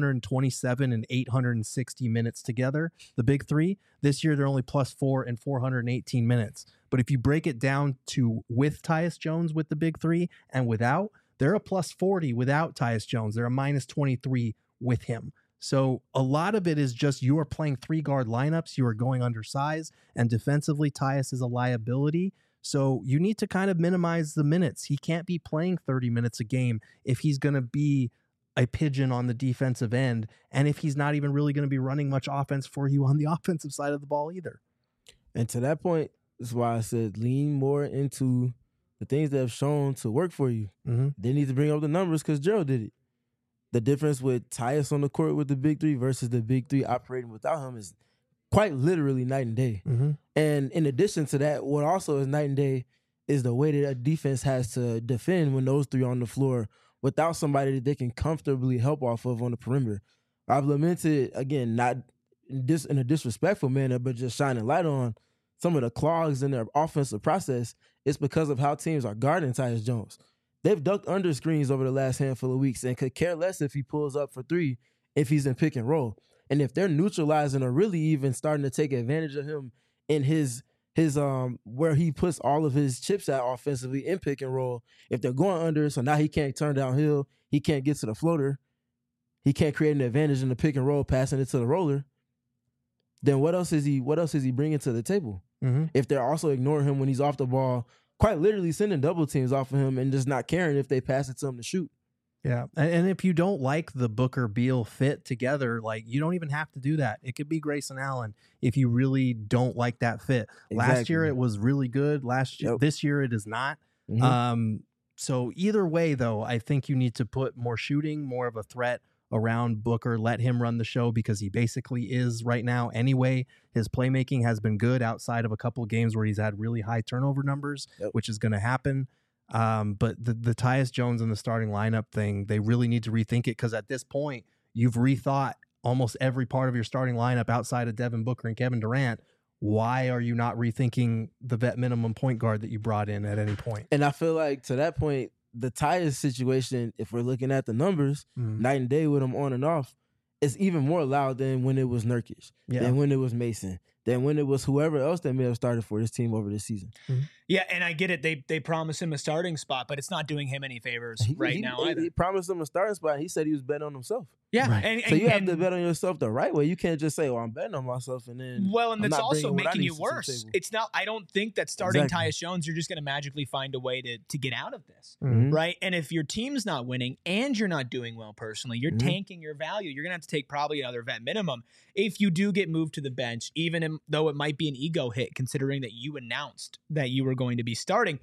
S1: 127 and 860 minutes together, the big three. This year, they're only plus 4 and 418 minutes. But if you break it down to with Tyus Jones with the big three and without, they're a plus 40 without Tyus Jones. They're a minus 23 with him. So a lot of it is just you are playing three-guard lineups, you are going undersized, and defensively, Tyus is a liability. So you need to kind of minimize the minutes. He can't be playing 30 minutes a game if he's going to be a pigeon on the defensive end, and if he's not even really going to be running much offense for you on the offensive side of the ball either.
S3: And to that point, that's why I said lean more into the things that have shown to work for you. They need to bring up the numbers because Gerald did it. The difference with Tyus on the court with the big three versus the big three operating without him is quite literally night and day. And in addition to that, what also is night and day is the way that a defense has to defend when those three are on the floor without somebody that they can comfortably help off of on the perimeter. I've lamented, again, not in a disrespectful manner, but just shining light on some of the clogs in their offensive process. It's because of how teams are guarding Tyus Jones. They've ducked under screens over the last handful of weeks and could care less if he pulls up for three if he's in pick and roll. And if they're neutralizing or really even starting to take advantage of him in his where he puts all of his chips at offensively in pick and roll, if they're going under, so now he can't turn downhill, he can't get to the floater, he can't create an advantage in the pick and roll, passing it to the roller, then what else is he bringing to the table? If they're also ignoring him when he's off the ball, quite literally sending double teams off of him and just not caring if they pass it to him to shoot.
S1: Yeah. And if you don't like the Booker Beal fit together, like, you don't even have to do that. It could be Grayson Allen if you really don't like that fit.
S3: Exactly.
S1: Last year it was really good. This year it is not. So either way, though, I think you need to put more shooting, more of a threat around Booker, let him run the show, because he basically is right now anyway. His playmaking has been good outside of a couple of games where he's had really high turnover numbers, which is going to happen. But the Tyus Jones in the starting lineup thing, they really need to rethink it, because at this point, you've rethought almost every part of your starting lineup outside of Devin Booker and Kevin Durant. Why are you not rethinking the vet minimum point guard that you brought in at any point?
S3: And I feel like to that point, the Tyus situation, if we're looking at the numbers, night and day with him on and off, is even more loud than when it was Nurkic, than when it was Mason, than when it was whoever else that may have started for this team over this season.
S2: Yeah, and I get it. They promised him a starting spot, but it's not doing him any favors now either.
S3: He promised him a starting spot. He said he was betting on himself.
S2: Yeah,
S1: Right.
S3: So you have to bet on yourself the right way. You can't just say, "Well, I'm betting on myself," and then
S2: and that's also making you
S3: you
S2: worse. It's not. I don't think that starting Tyus Jones, you're just going to magically find a way to get out of this, right? And if your team's not winning and you're not doing well personally, you're tanking your value. You're going to have to take probably another vet minimum if you do get moved to the bench, even though it might be an ego hit, considering that you announced that you were going to be starting.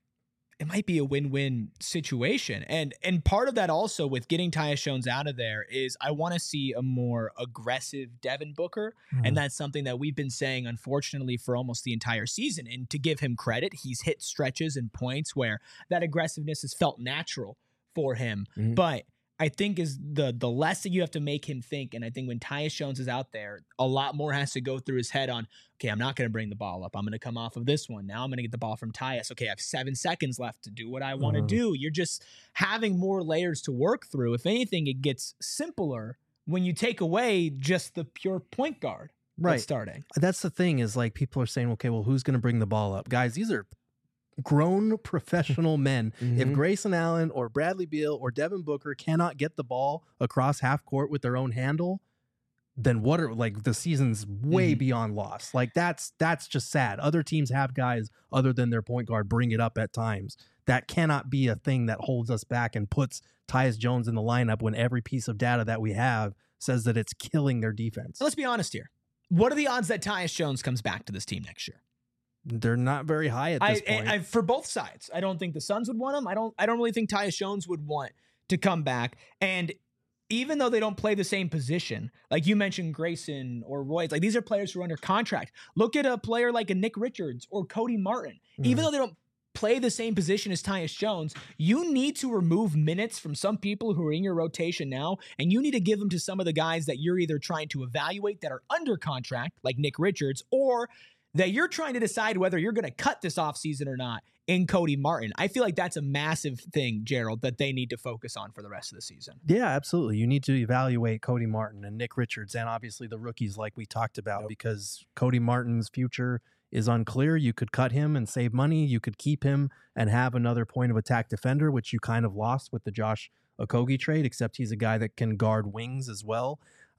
S2: It might be a win-win situation. And part of that also with getting Tyus Jones out of there is I want to see a more aggressive Devin Booker. And that's something that we've been saying, unfortunately, for almost the entire season. And to give him credit, he's hit stretches and points where that aggressiveness has felt natural for him. But I think is the less that you have to make him think. And I think when Tyus Jones is out there, a lot more has to go through his head on, okay, I'm not going to bring the ball up. I'm going to come off of this one. Now I'm going to get the ball from Tyus. Okay, I have 7 seconds left to do what I want to do. You're just having more layers to work through. If anything, it gets simpler when you take away just the pure point guard that's starting.
S1: That's the thing is like people are saying, okay, well, who's going to bring the ball up? Guys, these are grown professional men. If Grayson Allen or Bradley Beal or Devin Booker cannot get the ball across half court with their own handle, then what are like the season's way beyond lost. Like that's just sad. Other teams have guys other than their point guard bring it up at times. That cannot be a thing that holds us back and puts Tyus Jones in the lineup when every piece of data that we have says that it's killing their defense.
S2: Let's be honest here. What are the odds that Tyus Jones comes back to this team next year?
S1: They're not very high at this point.
S2: For both sides, I don't think the Suns would want him. I don't really think Tyus Jones would want to come back. And even though they don't play the same position, like you mentioned Grayson or Royce, like these are players who are under contract. Look at a player like a Nick Richards or Cody Martin. Even though they don't play the same position as Tyus Jones, you need to remove minutes from some people who are in your rotation now, and you need to give them to some of the guys that you're either trying to evaluate that are under contract, like Nick Richards, or that you're trying to decide whether you're going to cut this offseason or not in Cody Martin. I feel like that's a massive thing, Gerald, that they need to focus on for the rest of the season.
S1: Yeah, absolutely. You need to evaluate Cody Martin and Nick Richards and obviously the rookies like we talked about because Cody Martin's future is unclear. You could cut him and save money. You could keep him and have another point of attack defender, which you kind of lost with the Josh Okogie trade, except he's a guy that can guard wings as well.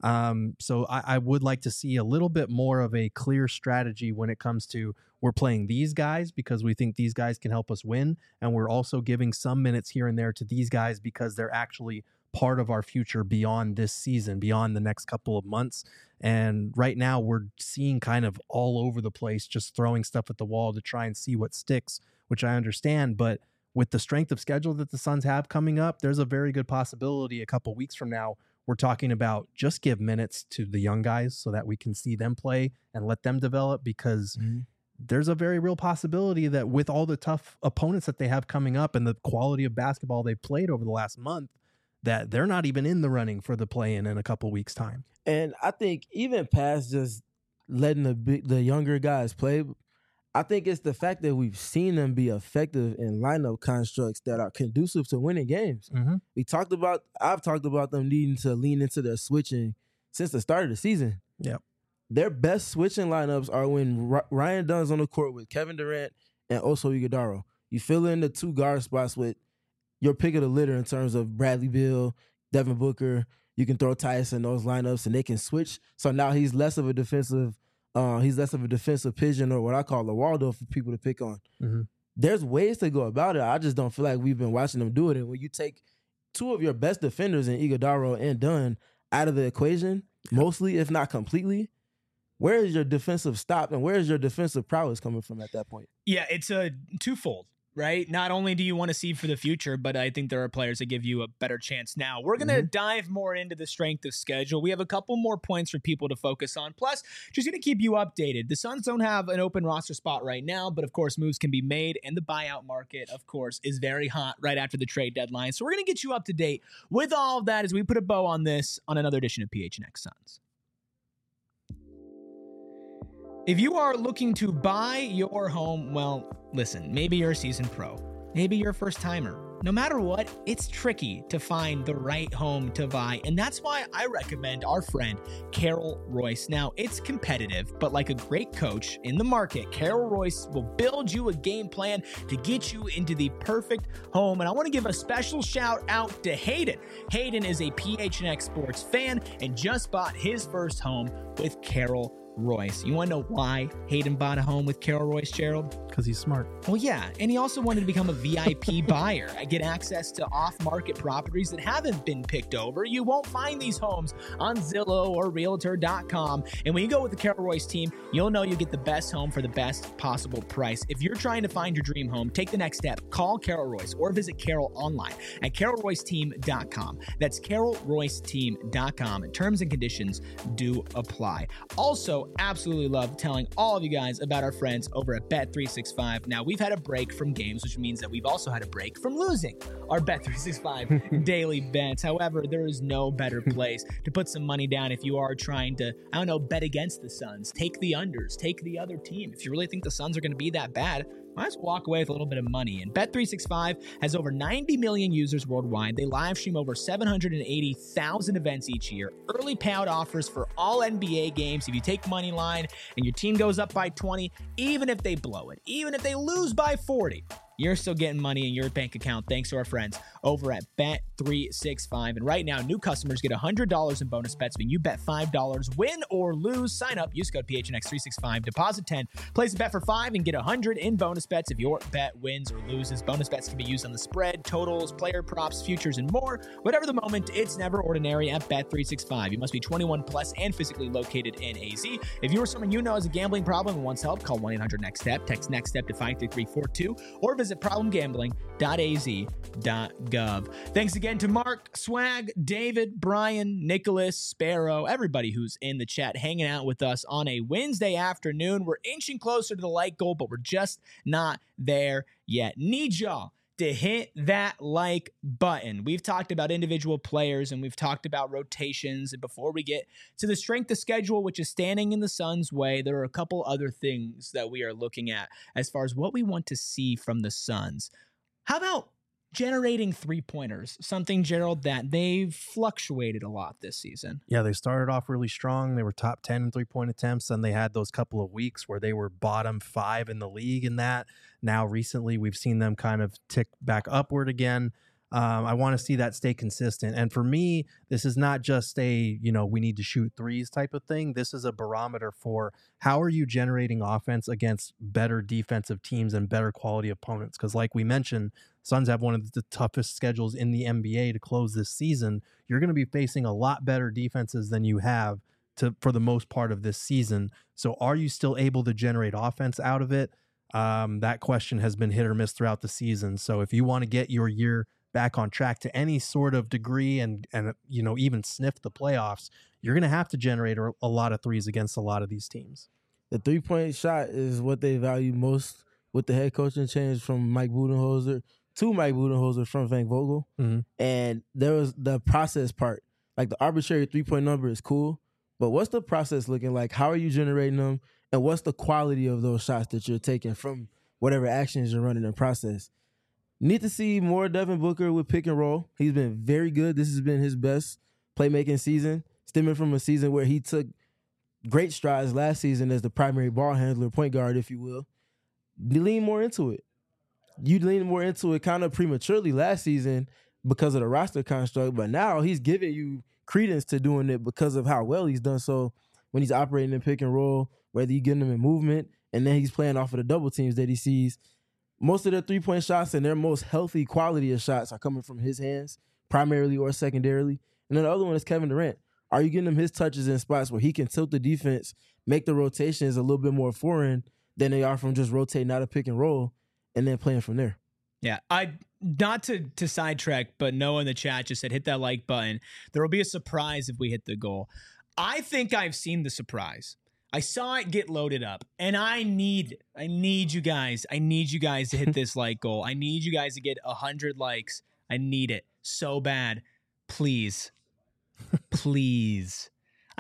S1: So I would like to see a little bit more of a clear strategy when it comes to we're playing these guys because we think these guys can help us win. And we're also giving some minutes here and there to these guys because they're actually part of our future beyond this season, beyond the next couple of months. And right now we're seeing kind of all over the place, just throwing stuff at the wall to try and see what sticks, which I understand. But with the strength of schedule that the Suns have coming up, there's a very good possibility a couple weeks from now we're talking about just give minutes to the young guys so that we can see them play and let them develop because there's a very real possibility that with all the tough opponents that they have coming up and the quality of basketball they've played over the last month, that they're not even in the running for the play-in in a couple weeks' time.
S3: And I think even past just letting the younger guys play, I think it's the fact that we've seen them be effective in lineup constructs that are conducive to winning games. I've talked about them needing to lean into their switching since the start of the season.
S1: Yep.
S3: Their best switching lineups are when Ryan Dunn's on the court with Kevin Durant and Oso Ighodaro. You fill in the 2 guard spots with your pick of the litter in terms of Bradley Beal, Devin Booker. You can throw Tyus in those lineups and they can switch. So now he's less of a defensive pigeon or what I call a Waldo for people to pick on. There's ways to go about it. I just don't feel like we've been watching them do it. And when you take 2 of your best defenders in Ighodaro and Dunn out of the equation, mostly, if not completely, where is your defensive stop and where is your defensive prowess coming from at that point?
S2: Yeah, it's a twofold, right? Not only do you want to see for the future, but I think there are players that give you a better chance now. We're going to dive more into the strength of schedule. We have a couple more points for people to focus on. Plus, just going to keep you updated. The Suns don't have an open roster spot right now, but of course, moves can be made. And the buyout market, of course, is very hot right after the trade deadline. So we're going to get you up to date with all of that as we put a bow on this on another edition of PHNX Suns. If you are looking to buy your home, well, listen, maybe you're a seasoned pro, maybe you're a first timer, no matter what, it's tricky to find the right home to buy. And that's why I recommend our friend Carol Royce. Now, it's competitive, but like a great coach in the market, Carol Royce will build you a game plan to get you into the perfect home. And I want to give a special shout out to Hayden. Hayden is a PHNX Sports fan and just bought his first home with Carol Royce. You want to know why Hayden bought a home with Carol Royce, Gerald?
S1: Because he's smart.
S2: Well, yeah, and he also wanted to become a VIP buyer. Get access to off-market properties that haven't been picked over. You won't find these homes on Zillow or Realtor.com. And when you go with the Carol Royce team, you'll know you get the best home for the best possible price. If you're trying to find your dream home, take the next step. Call Carol Royce or visit Carol online at CarolRoyceTeam.com. That's CarolRoyceTeam.com. Terms and conditions do apply. Also, absolutely love telling all of you guys about our friends over at Bet365. Now, we've had a break from games, which means that we've also had a break from losing our Bet365 daily bets. However, there is no better place to put some money down if you are trying to, bet against the Suns. Take the unders, take the other team. If you really think the Suns are going to be that bad, might as well walk away with a little bit of money. And Bet365 has over 90 million users worldwide. They live stream over 780,000 events each year. Early payout offers for all NBA games. If you take money line and your team goes up by 20, even if they blow it, even if they lose by 40, you're still getting money in your bank account thanks to our friends over at Bet365. And right now, new customers get $100 in bonus bets when you bet $5, win or lose. Sign up, use code PHNX365, deposit 10, place a bet for $5 and get $100 in bonus bets if your bet wins or loses. Bonus bets can be used on the spread, totals, player props, futures, and more. Whatever the moment, it's never ordinary at Bet365. You must be 21 plus and physically located in AZ. If you or someone you know has a gambling problem and wants help, call 1-800-NEXT-STEP. Text NEXT STEP to 53342 or visit problemgambling.az.gov. Thanks again to Mark, Swag, David, Brian, Nicholas, Sparrow, everybody who's in the chat hanging out with us on a Wednesday afternoon. We're inching closer to the like goal, but we're just not there yet. Need y'all to hit that like button. We've talked about individual players and we've talked about rotations. And before we get to the strength of schedule, which is standing in the Suns' way, there are a couple other things that we are looking at as far as what we want to see from the Suns. How about generating three-pointers? Something, Gerald, that they've fluctuated a lot this season.
S1: Yeah, they started off really strong. They were top 10 in three-point attempts, and they had those couple of weeks where they were bottom 5 in the league in that. Now, recently, we've seen them kind of tick back upward again. I want to see that stay consistent. And for me, this is not just a, we need to shoot threes type of thing. This is a barometer for how are you generating offense against better defensive teams and better quality opponents? Because like we mentioned, Suns have one of the toughest schedules in the NBA to close this season. You're going to be facing a lot better defenses than you have for the most part of this season. So are you still able to generate offense out of it? That question has been hit or miss throughout the season. So if you want to get your year back on track to any sort of degree and even sniff the playoffs, you're going to have to generate a lot of threes against a lot of these teams.
S3: The three-point shot is what they value most with the head coaching change from Mike Budenholzer to Mike Budenholzer from Frank Vogel.
S1: Mm-hmm.
S3: And there was the process part. Like the arbitrary three-point number is cool, but what's the process looking like? How are you generating them? And what's the quality of those shots that you're taking from whatever actions you're running in process? Need to see more Devin Booker with pick and roll. He's been very good. This has been his best playmaking season, stemming from a season where he took great strides last season as the primary ball handler, point guard, if you will. You lean more into it. You lean more into it kind of prematurely last season because of the roster construct, but now he's giving you credence to doing it because of how well he's done so when he's operating in pick and roll, whether you get him in movement, and then he's playing off of the double teams that he sees. Most of their three-point shots and their most healthy quality of shots are coming from his hands, primarily or secondarily. And then the other one is Kevin Durant. Are you getting him his touches in spots where he can tilt the defense, make the rotations a little bit more foreign than they are from just rotating out of pick and roll and then playing from there?
S2: Yeah, not to sidetrack, but Noah in the chat just said, hit that like button. There will be a surprise if we hit the goal. I think I've seen the surprise. I saw it get loaded up, and I need you guys to hit this like goal. I need you guys to get 100 likes. I need it so bad. Please. Please.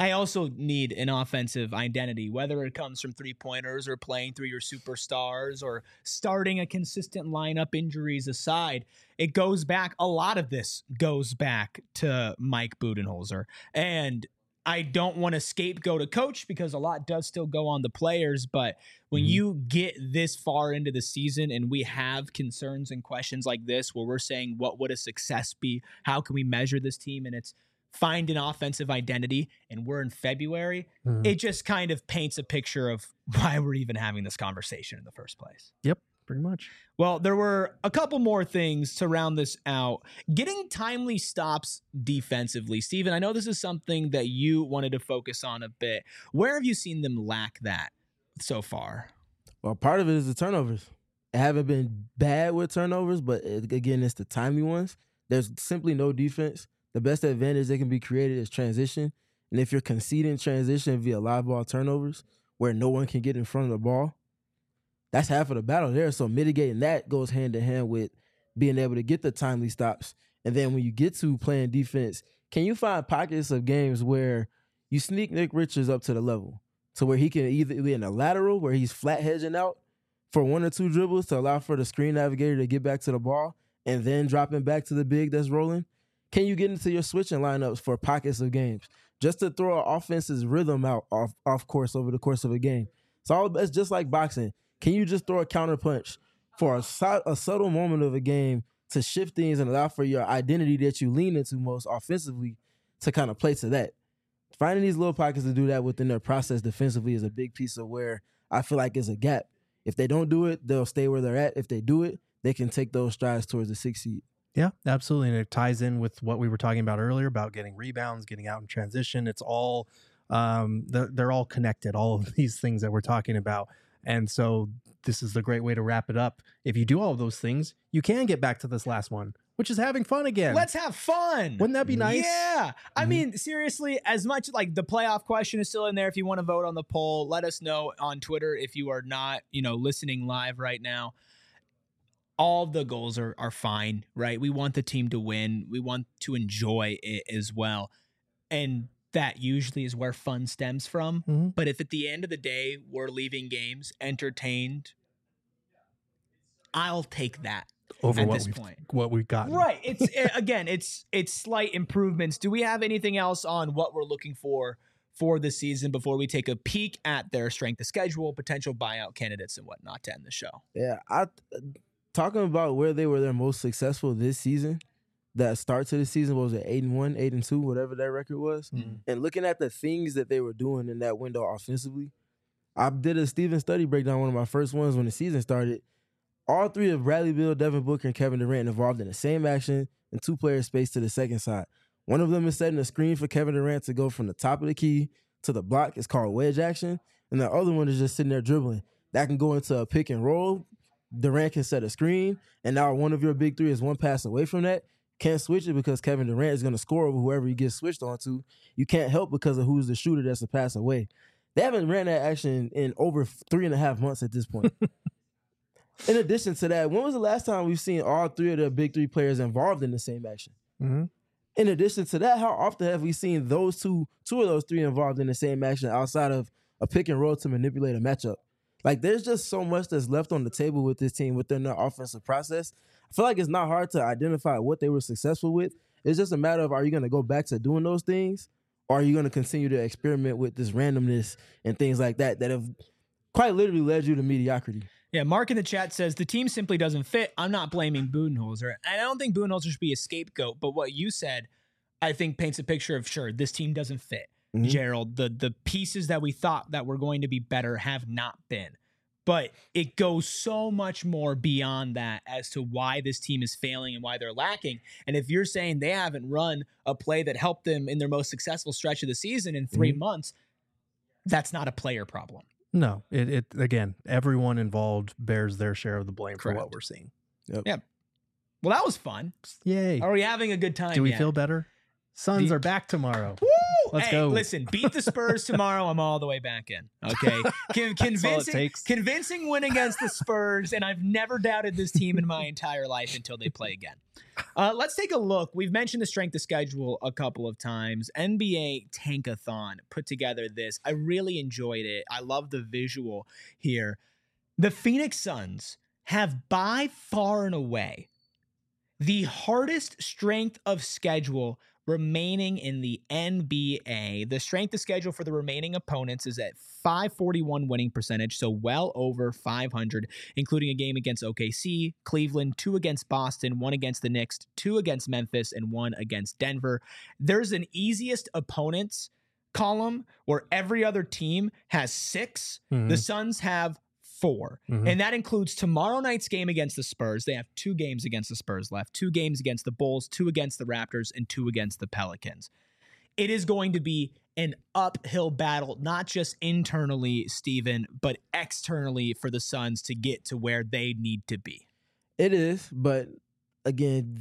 S2: I also need an offensive identity, whether it comes from 3-pointers or playing through your superstars or starting a consistent lineup, injuries aside. It goes back, a lot of this goes back to Mike Budenholzer. And I don't want to scapegoat a coach because a lot does still go on the players. But when you get this far into the season and we have concerns and questions like this, where we're saying, what would a success be? How can we measure this team? And it's find an offensive identity, and we're in February. It just kind of paints a picture of why we're even having this conversation in the first place.
S1: Yep, pretty much.
S2: Well, there were a couple more things to round this out. Getting timely stops defensively. Steven, I know this is something that you wanted to focus on a bit. Where have you seen them lack that so far?
S3: Well, part of it is the turnovers. They haven't been bad with turnovers, but again, it's the timely ones. There's simply no defense. The best advantage that can be created is transition. And if you're conceding transition via live ball turnovers where no one can get in front of the ball, that's half of the battle there. So mitigating that goes hand in hand with being able to get the timely stops. And then when you get to playing defense, can you find pockets of games where you sneak Nick Richards up to the level to where he can either be in a lateral where he's flat hedging out for 1 or 2 dribbles to allow for the screen navigator to get back to the ball and then dropping back to the big that's rolling? Can you get into your switching lineups for pockets of games just to throw an offense's rhythm out off course over the course of a game? It's just like boxing. Can you just throw a counter punch for a subtle moment of a game to shift things and allow for your identity that you lean into most offensively to kind of play to that? Finding these little pockets to do that within their process defensively is a big piece of where I feel like is a gap. If they don't do it, they'll stay where they're at. If they do it, they can take those strides towards the 6th seed.
S1: Yeah, absolutely. And it ties in with what we were talking about earlier about getting rebounds, getting out in transition. It's all, they're all connected, all of these things that we're talking about. And so this is the great way to wrap it up. If you do all of those things, you can get back to this last one, which is having fun again.
S2: Let's have fun.
S1: Wouldn't that be nice?
S2: Yeah. I mean, seriously, as much like the playoff question is still in there. If you want to vote on the poll, let us know on Twitter if you are not, listening live right now. All the goals are fine, right? We want the team to win. We want to enjoy it as well. And that usually is where fun stems from. But if at the end of the day, we're leaving games entertained, I'll take that
S1: over
S2: at
S1: what
S2: this
S1: we've,
S2: point.
S1: what we've gotten.
S2: Right. It's slight improvements. Do we have anything else on what we're looking for the season before we take a peek at their strength of schedule, potential buyout candidates and whatnot to end the show?
S3: Yeah, talking about where they were their most successful this season, that start to the season, what was it, 8-1, 8-2, whatever that record was, and looking at the things that they were doing in that window offensively, I did a Steven study breakdown, one of my first ones when the season started. All 3 of Bradley Beal, Devin Booker, and Kevin Durant involved in the same action and 2 players spaced to the second side. One of them is setting a screen for Kevin Durant to go from the top of the key to the block. It's called wedge action. And the other one is just sitting there dribbling. That can go into a pick and roll. Durant can set a screen, and now one of your big 3 is one pass away from that. Can't switch it because Kevin Durant is going to score over whoever he gets switched onto. You can't help because of who's the shooter that's a pass away. They haven't ran that action in over 3.5 months at this point. In addition to that, when was the last time we've seen all 3 of the big 3 players involved in the same action? In addition to that, how often have we seen those two of those 3 involved in the same action outside of a pick and roll to manipulate a matchup? Like, there's just so much that's left on the table with this team within their offensive process. I feel like it's not hard to identify what they were successful with. It's just a matter of, are you going to go back to doing those things, or are you going to continue to experiment with this randomness and things like that have quite literally led you to mediocrity?
S2: Yeah, Mark in the chat says, the team simply doesn't fit. I'm not blaming Budenholzer. And I don't think Budenholzer should be a scapegoat, but what you said, I think paints a picture of, sure, this team doesn't fit. Gerald, the pieces that we thought that were going to be better have not been. But it goes so much more beyond that as to why this team is failing and why they're lacking. And if you're saying they haven't run a play that helped them in their most successful stretch of the season in 3 months, that's not a player problem.
S1: No, it again, everyone involved bears their share of the blame for what we're seeing.
S2: Yeah. Well, that was fun.
S1: Yay.
S2: Are we having a good time?
S1: Do we feel better? Suns are back tomorrow.
S2: Woo!
S1: Let's
S2: hey,
S1: go.
S2: listen, beat the Spurs tomorrow. I'm all the way back in. Okay. Convincing win against the Spurs, and I've never doubted this team in my entire life until they play again. Let's take a look. We've mentioned the strength of schedule a couple of times. NBA Tankathon put together this. I really enjoyed it. I love the visual here. The Phoenix Suns have by far and away the hardest strength of schedule remaining in the NBA. The strength of schedule for the remaining opponents is at 541 winning percentage, so well over 500, including a game against OKC, Cleveland, 2 against Boston, 1 against the Knicks, 2 against Memphis, and 1 against Denver. There's an easiest opponents column where every other team has 6.
S1: Mhm.
S2: The Suns have 4.
S1: Mhm.
S2: And that includes tomorrow night's game against the Spurs. They have 2 games against the Spurs left, 2 games against the Bulls, 2 against the Raptors, and 2 against the Pelicans. It is going to be an uphill battle, not just internally, Steven, but externally for the Suns to get to where they need to be.
S3: It is, but again,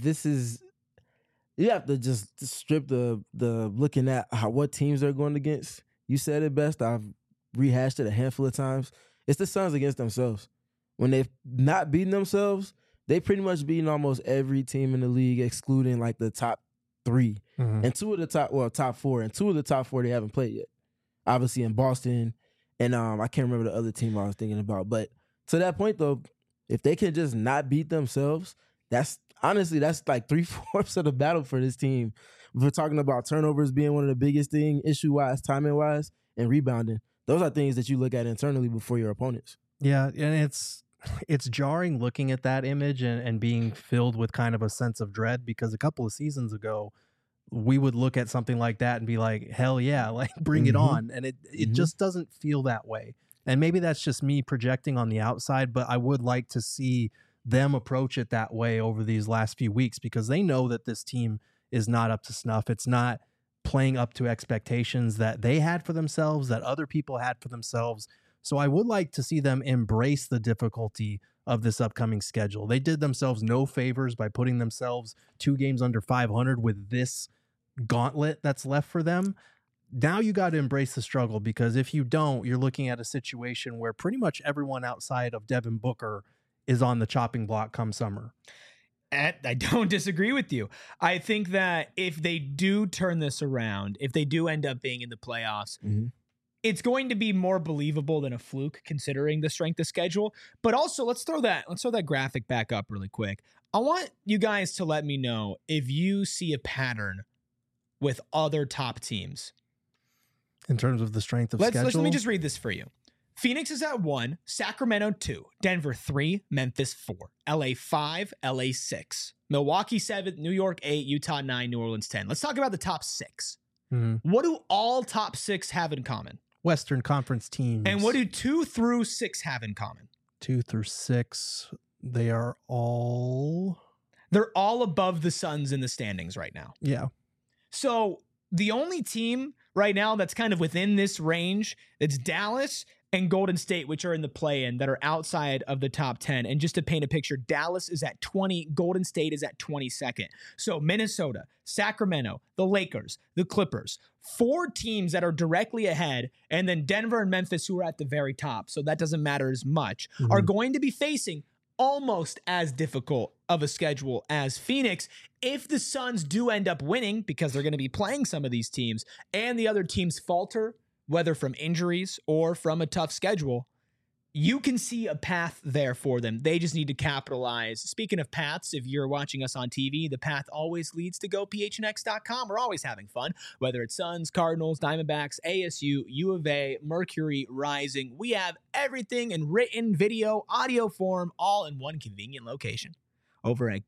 S3: you have to just strip the looking at what teams they're going against. You said it best. I've rehashed it a handful of times. It's the Suns against themselves. When they've not beaten themselves, they pretty much beaten almost every team in the league, excluding like the top 3
S1: Mhm.
S3: and top 4, and 2 of the top 4 they haven't played yet. Obviously in Boston, and I can't remember the other team I was thinking about. But to that point though, if they can just not beat themselves, that's like 3/4 of the battle for this team. We're talking about turnovers being one of the biggest thing, issue-wise, timing-wise, and rebounding. Those are things that you look at internally before your opponents.
S1: Yeah, and it's jarring looking at that image and being filled with kind of a sense of dread, because a couple of seasons ago, we would look at something like that and be like, hell yeah, like bring it
S3: Mhm.
S1: on. And it just doesn't feel that way. And maybe that's just me projecting on the outside, but I would like to see them approach it that way over these last few weeks, because they know that this team is not up to snuff. It's not playing up to expectations that they had for themselves, that other people had for themselves. So I would like to see them embrace the difficulty of this upcoming schedule. They did themselves no favors by putting themselves 2 games under 500 with this gauntlet that's left for them. Now you got to embrace the struggle, because if you don't, you're looking at a situation where pretty much everyone outside of Devin Booker is on the chopping block come summer.
S2: I don't disagree with you. I think that if they do turn this around, if they do end up being in the playoffs,
S3: Mhm.
S2: it's going to be more believable than a fluke considering the strength of schedule. But also, let's throw that graphic back up really quick. I want you guys to let me know if you see a pattern with other top teams.
S1: In terms of the strength of schedule.
S2: Let me just read this for you. Phoenix is at 1, Sacramento 2, Denver 3, Memphis 4, LA 5, LA 6, Milwaukee 7, New York 8, Utah 9, New Orleans 10. Let's talk about the top 6.
S1: Mhm.
S2: What do all top 6 have in common?
S1: Western Conference teams.
S2: And what do 2 through 6 have in common?
S1: 2 through 6, they are all...
S2: They're all above the Suns in the standings right now.
S1: Yeah.
S2: So the only team right now that's kind of within this range, it's Dallas and Golden State, which are in the play-in, that are outside of the top 10. And just to paint a picture, Dallas is at 20, Golden State is at 22nd. So Minnesota, Sacramento, the Lakers, the Clippers, 4 teams that are directly ahead, and then Denver and Memphis, who are at the very top, so that doesn't matter as much, are going to be facing almost as difficult of a schedule as Phoenix if the Suns do end up winning, because they're going to be playing some of these teams, and the other teams falter, whether from injuries or from a tough schedule. You can see a path there for them. They just need to capitalize. Speaking of paths, if you're watching us on TV, the path always leads to gophnx.com. We're always having fun, whether it's Suns, Cardinals, Diamondbacks, ASU, U of A, Mercury, Rising. We have everything in written, video, audio form, all in one convenient location over at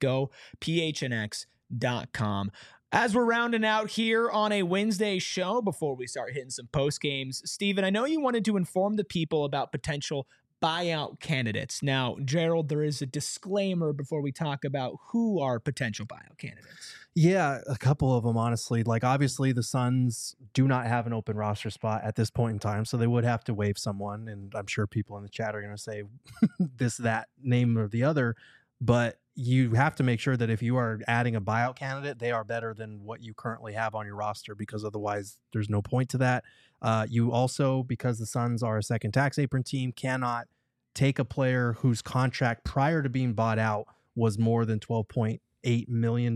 S2: gophnx.com. As we're rounding out here on a Wednesday show, before we start hitting some post games, Steven, I know you wanted to inform the people about potential buyout candidates. Now, Gerald, there is a disclaimer before we talk about who are potential buyout candidates.
S1: Yeah, a couple of them, honestly. Like, obviously, the Suns do not have an open roster spot at this point in time, so they would have to waive someone. And I'm sure people in the chat are going to say this, that, name, or the other. But you have to make sure that if you are adding a buyout candidate, they are better than what you currently have on your roster, because otherwise there's no point to that. You also, because the Suns are a second tax apron team, cannot take a player whose contract prior to being bought out was more than $12.8 million.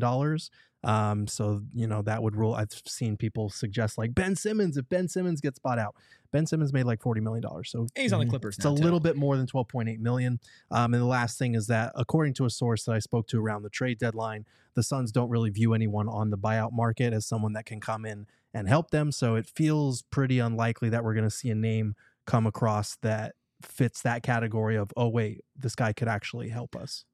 S1: So, that would rule. I've seen people suggest like Ben Simmons, if Ben Simmons gets bought out. Ben Simmons made like $40 million. So
S2: he's on the Clippers
S1: it's
S2: now,
S1: a little bit more than $12.8 million. And the last thing is that, according to a source that I spoke to around the trade deadline, the Suns don't really view anyone on the buyout market as someone that can come in and help them. So it feels pretty unlikely that we're going to see a name come across that fits that category of, oh, wait, this guy could actually help us.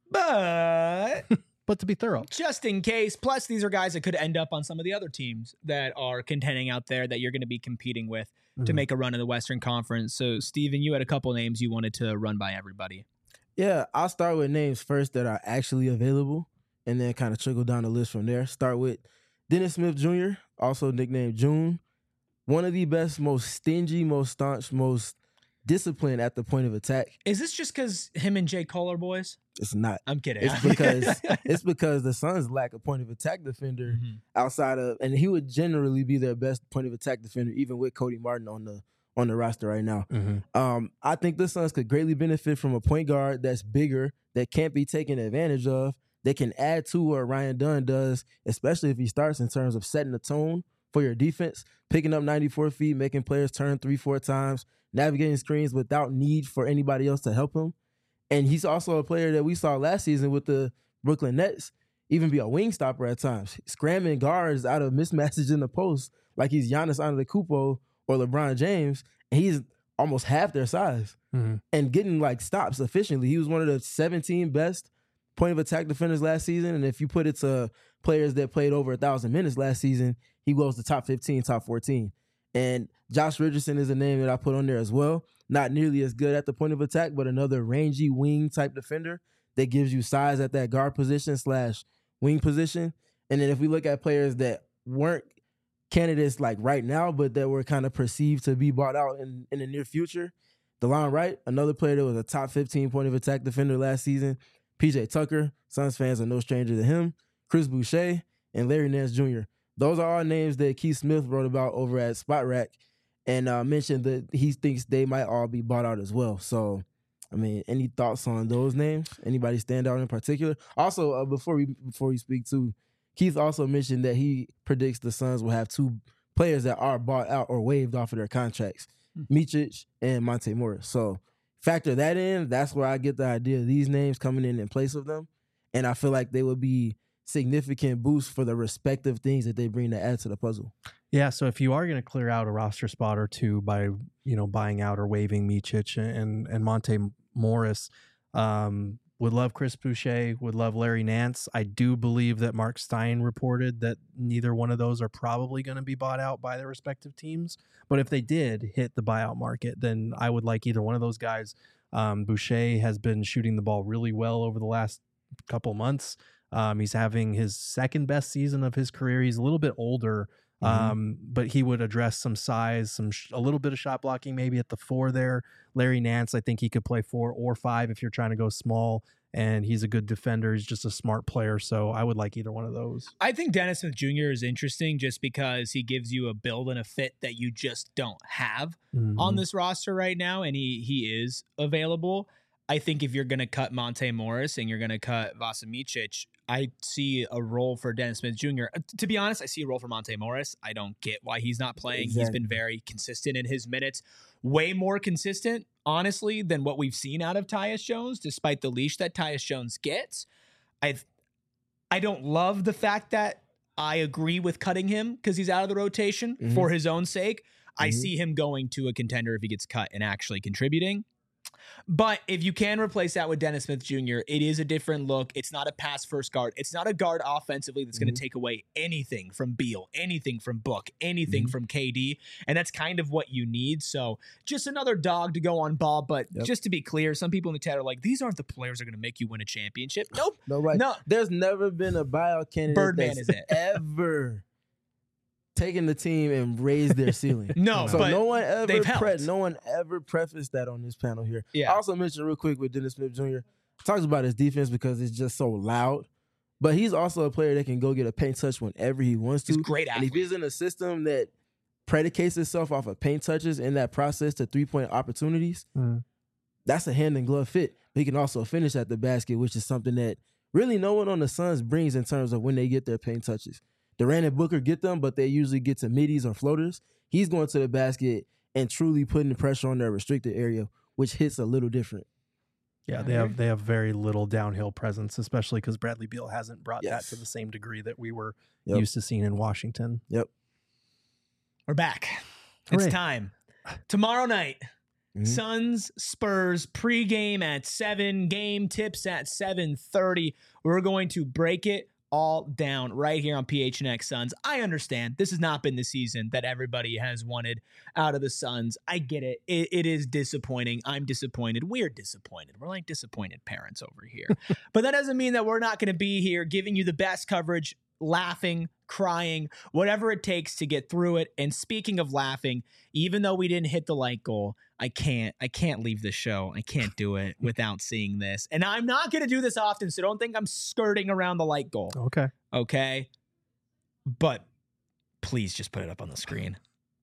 S1: But to be thorough,
S2: just in case. Plus, these are guys that could end up on some of the other teams that are contending out there that you're going to be competing with to make a run in the Western Conference. So, Steven, you had a couple names you wanted to run by everybody.
S3: Yeah, I'll start with names first that are actually available and then kind of trickle down the list from there. Start with Dennis Smith Jr., also nicknamed June. One of the best, most stingy, most staunch, most disciplined at the point of attack.
S2: Is this just because him and J. Cole are boys?
S3: It's not.
S2: I'm kidding.
S3: It's because the Suns lack a point of attack defender outside of, and he would generally be their best point of attack defender, even with Cody Martin on the roster right now. I think the Suns could greatly benefit from a point guard that's bigger, that can't be taken advantage of, that can add to what Ryan Dunn does, especially if he starts in terms of setting the tone for your defense, picking up 94 feet, making players turn 3-4 times, navigating screens without need for anybody else to help him. And he's also a player that we saw last season with the Brooklyn Nets even be a wing stopper at times, scramming guards out of mismatches in the post like he's Giannis Antetokounmpo or LeBron James, and he's almost half their size and getting like stops efficiently. He was one of the 17 best point of attack defenders last season, and if you put it to players that played over 1,000 minutes last season, he goes to top 15, top 14. And Josh Richardson is a name that I put on there as well. Not nearly as good at the point of attack, but another rangy wing type defender that gives you size at that guard position / wing position. And then if we look at players that weren't candidates like right now, but that were kind of perceived to be bought out in the near future, DeLon Wright, another player that was a top 15 point of attack defender last season. PJ Tucker, Suns fans are no stranger to him. Chris Boucher, and Larry Nance Jr. Those are all names that Keith Smith wrote about over at Spot Rack, and mentioned that he thinks they might all be bought out as well. So, I mean, any thoughts on those names? Anybody stand out in particular? Also, before we speak too, Keith also mentioned that he predicts the Suns will have 2 players that are bought out or waived off of their contracts, Micic and Monte Morris. So factor that in. That's where I get the idea of these names coming in place of them. And I feel like they would be significant boosts for the respective things that they bring to add to the puzzle.
S1: Yeah, so if you are going to clear out a roster spot or two by, buying out or waiving Micic and Monte Morris, would love Chris Boucher, would love Larry Nance. I do believe that Mark Stein reported that neither one of those are probably going to be bought out by their respective teams. But if they did hit the buyout market, then I would like either one of those guys. Boucher has been shooting the ball really well over the last couple months. He's having his second best season of his career. He's a little bit older, but he would address some size, a little bit of shot blocking maybe at the 4 there. Larry Nance, I think he could play 4 or 5 if you're trying to go small, and he's a good defender. He's just a smart player, so I would like either one of those.
S2: I think Dennis Smith Jr. is interesting just because he gives you a build and a fit that you just don't have on this roster right now, and he is available. I think if you're going to cut Monte Morris and you're going to cut Vasa Micic, I see a role for Dennis Smith Jr. To be honest, I see a role for Monte Morris. I don't get why he's not playing. Exactly. He's been very consistent in his minutes. Way more consistent, honestly, than what we've seen out of Tyus Jones, despite the leash that Tyus Jones gets. I don't love the fact that I agree with cutting him because he's out of the rotation for his own sake. I see him going to a contender if he gets cut and actually contributing. But if you can replace that with Dennis Smith Jr., it is a different look. It's not a pass-first guard. It's not a guard offensively that's going to take away anything from Beal, anything from Book, anything from KD, and that's kind of what you need. So just another dog to go on Ball, but just to be clear, some people in the chat are like, these aren't the players that are going to make you win a championship. Nope.
S3: No, right. No. There's never been a buyout candidate
S2: Birdman is it.
S3: ever taking the team and raise their ceiling.
S2: No,
S3: so
S2: but
S3: no one ever
S2: they've helped.
S3: no one ever prefaced that on this panel here.
S2: Yeah.
S3: I also mentioned real quick with Dennis Smith Jr., talks about his defense because it's just so loud. But he's also a player that can go get a paint touch whenever he wants to.
S2: He's a great
S3: And
S2: athlete.
S3: if he's in a system that predicates itself off of paint touches in that process to 3-point opportunities, that's a hand and glove fit. He can also finish at the basket, which is something that really no one on the Suns brings in terms of when they get their paint touches. Durant and Booker get them, but they usually get to middies or floaters. He's going to the basket and truly putting the pressure on their restricted area, which hits a little different.
S1: Yeah, they have very little downhill presence, especially because Bradley Beal hasn't brought that to the same degree that we were used to seeing in Washington.
S3: Yep.
S2: We're back.
S1: Hooray.
S2: It's time. Tomorrow night, Suns Spurs pregame at 7, game tips at 7:30. We're going to break it all down right here on PHNX Suns. I understand this has not been the season that everybody has wanted out of the Suns. I get it. It is disappointing. I'm disappointed. We're disappointed. We're like disappointed parents over here. But that doesn't mean that we're not going to be here giving you the best coverage, laughing, crying, whatever it takes to get through it. And speaking of laughing, even though we didn't hit the like goal, I can't leave this show. I can't do it without seeing this. And I'm not going to do this often, so don't think I'm skirting around the like goal. Okay? But please just put it up on the screen.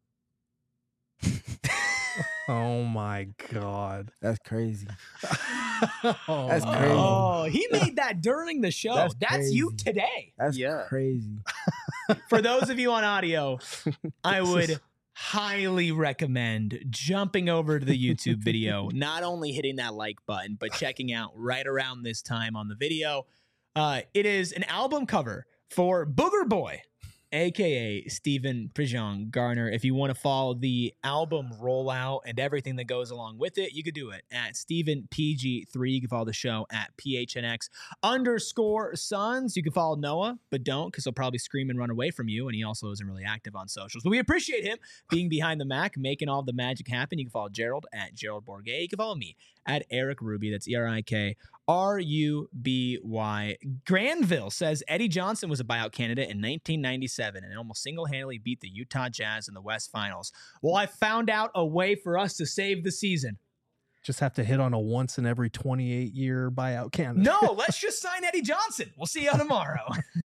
S1: Oh my God.
S3: That's crazy.
S1: That's
S3: crazy.
S2: Oh, he made that during the show. That's you today.
S3: That's crazy.
S2: For those of you on audio, I would highly recommend jumping over to the YouTube video, not only hitting that like button, but checking out right around this time on the video. It is an album cover for Booger Boy, a.k.a. Stephen Prejean Garner. If you want to follow the album rollout and everything that goes along with it, you could do it at StephenPG3. You can follow the show at PHNX_Suns. You can follow Noah, but don't, because he'll probably scream and run away from you, and he also isn't really active on socials. But we appreciate him being behind the Mac, making all the magic happen. You can follow Gerald at Gerald Bourget. You can follow me at Eric Ruby. That's ERIKRUBY. Granville says Eddie Johnson was a buyout candidate in 1997 and almost single-handedly beat the Utah Jazz in the West Finals. Well, I found out a way for us to save the season.
S1: Just have to hit on a once in every 28-year buyout candidate.
S2: No, let's just sign Eddie Johnson. We'll see you tomorrow.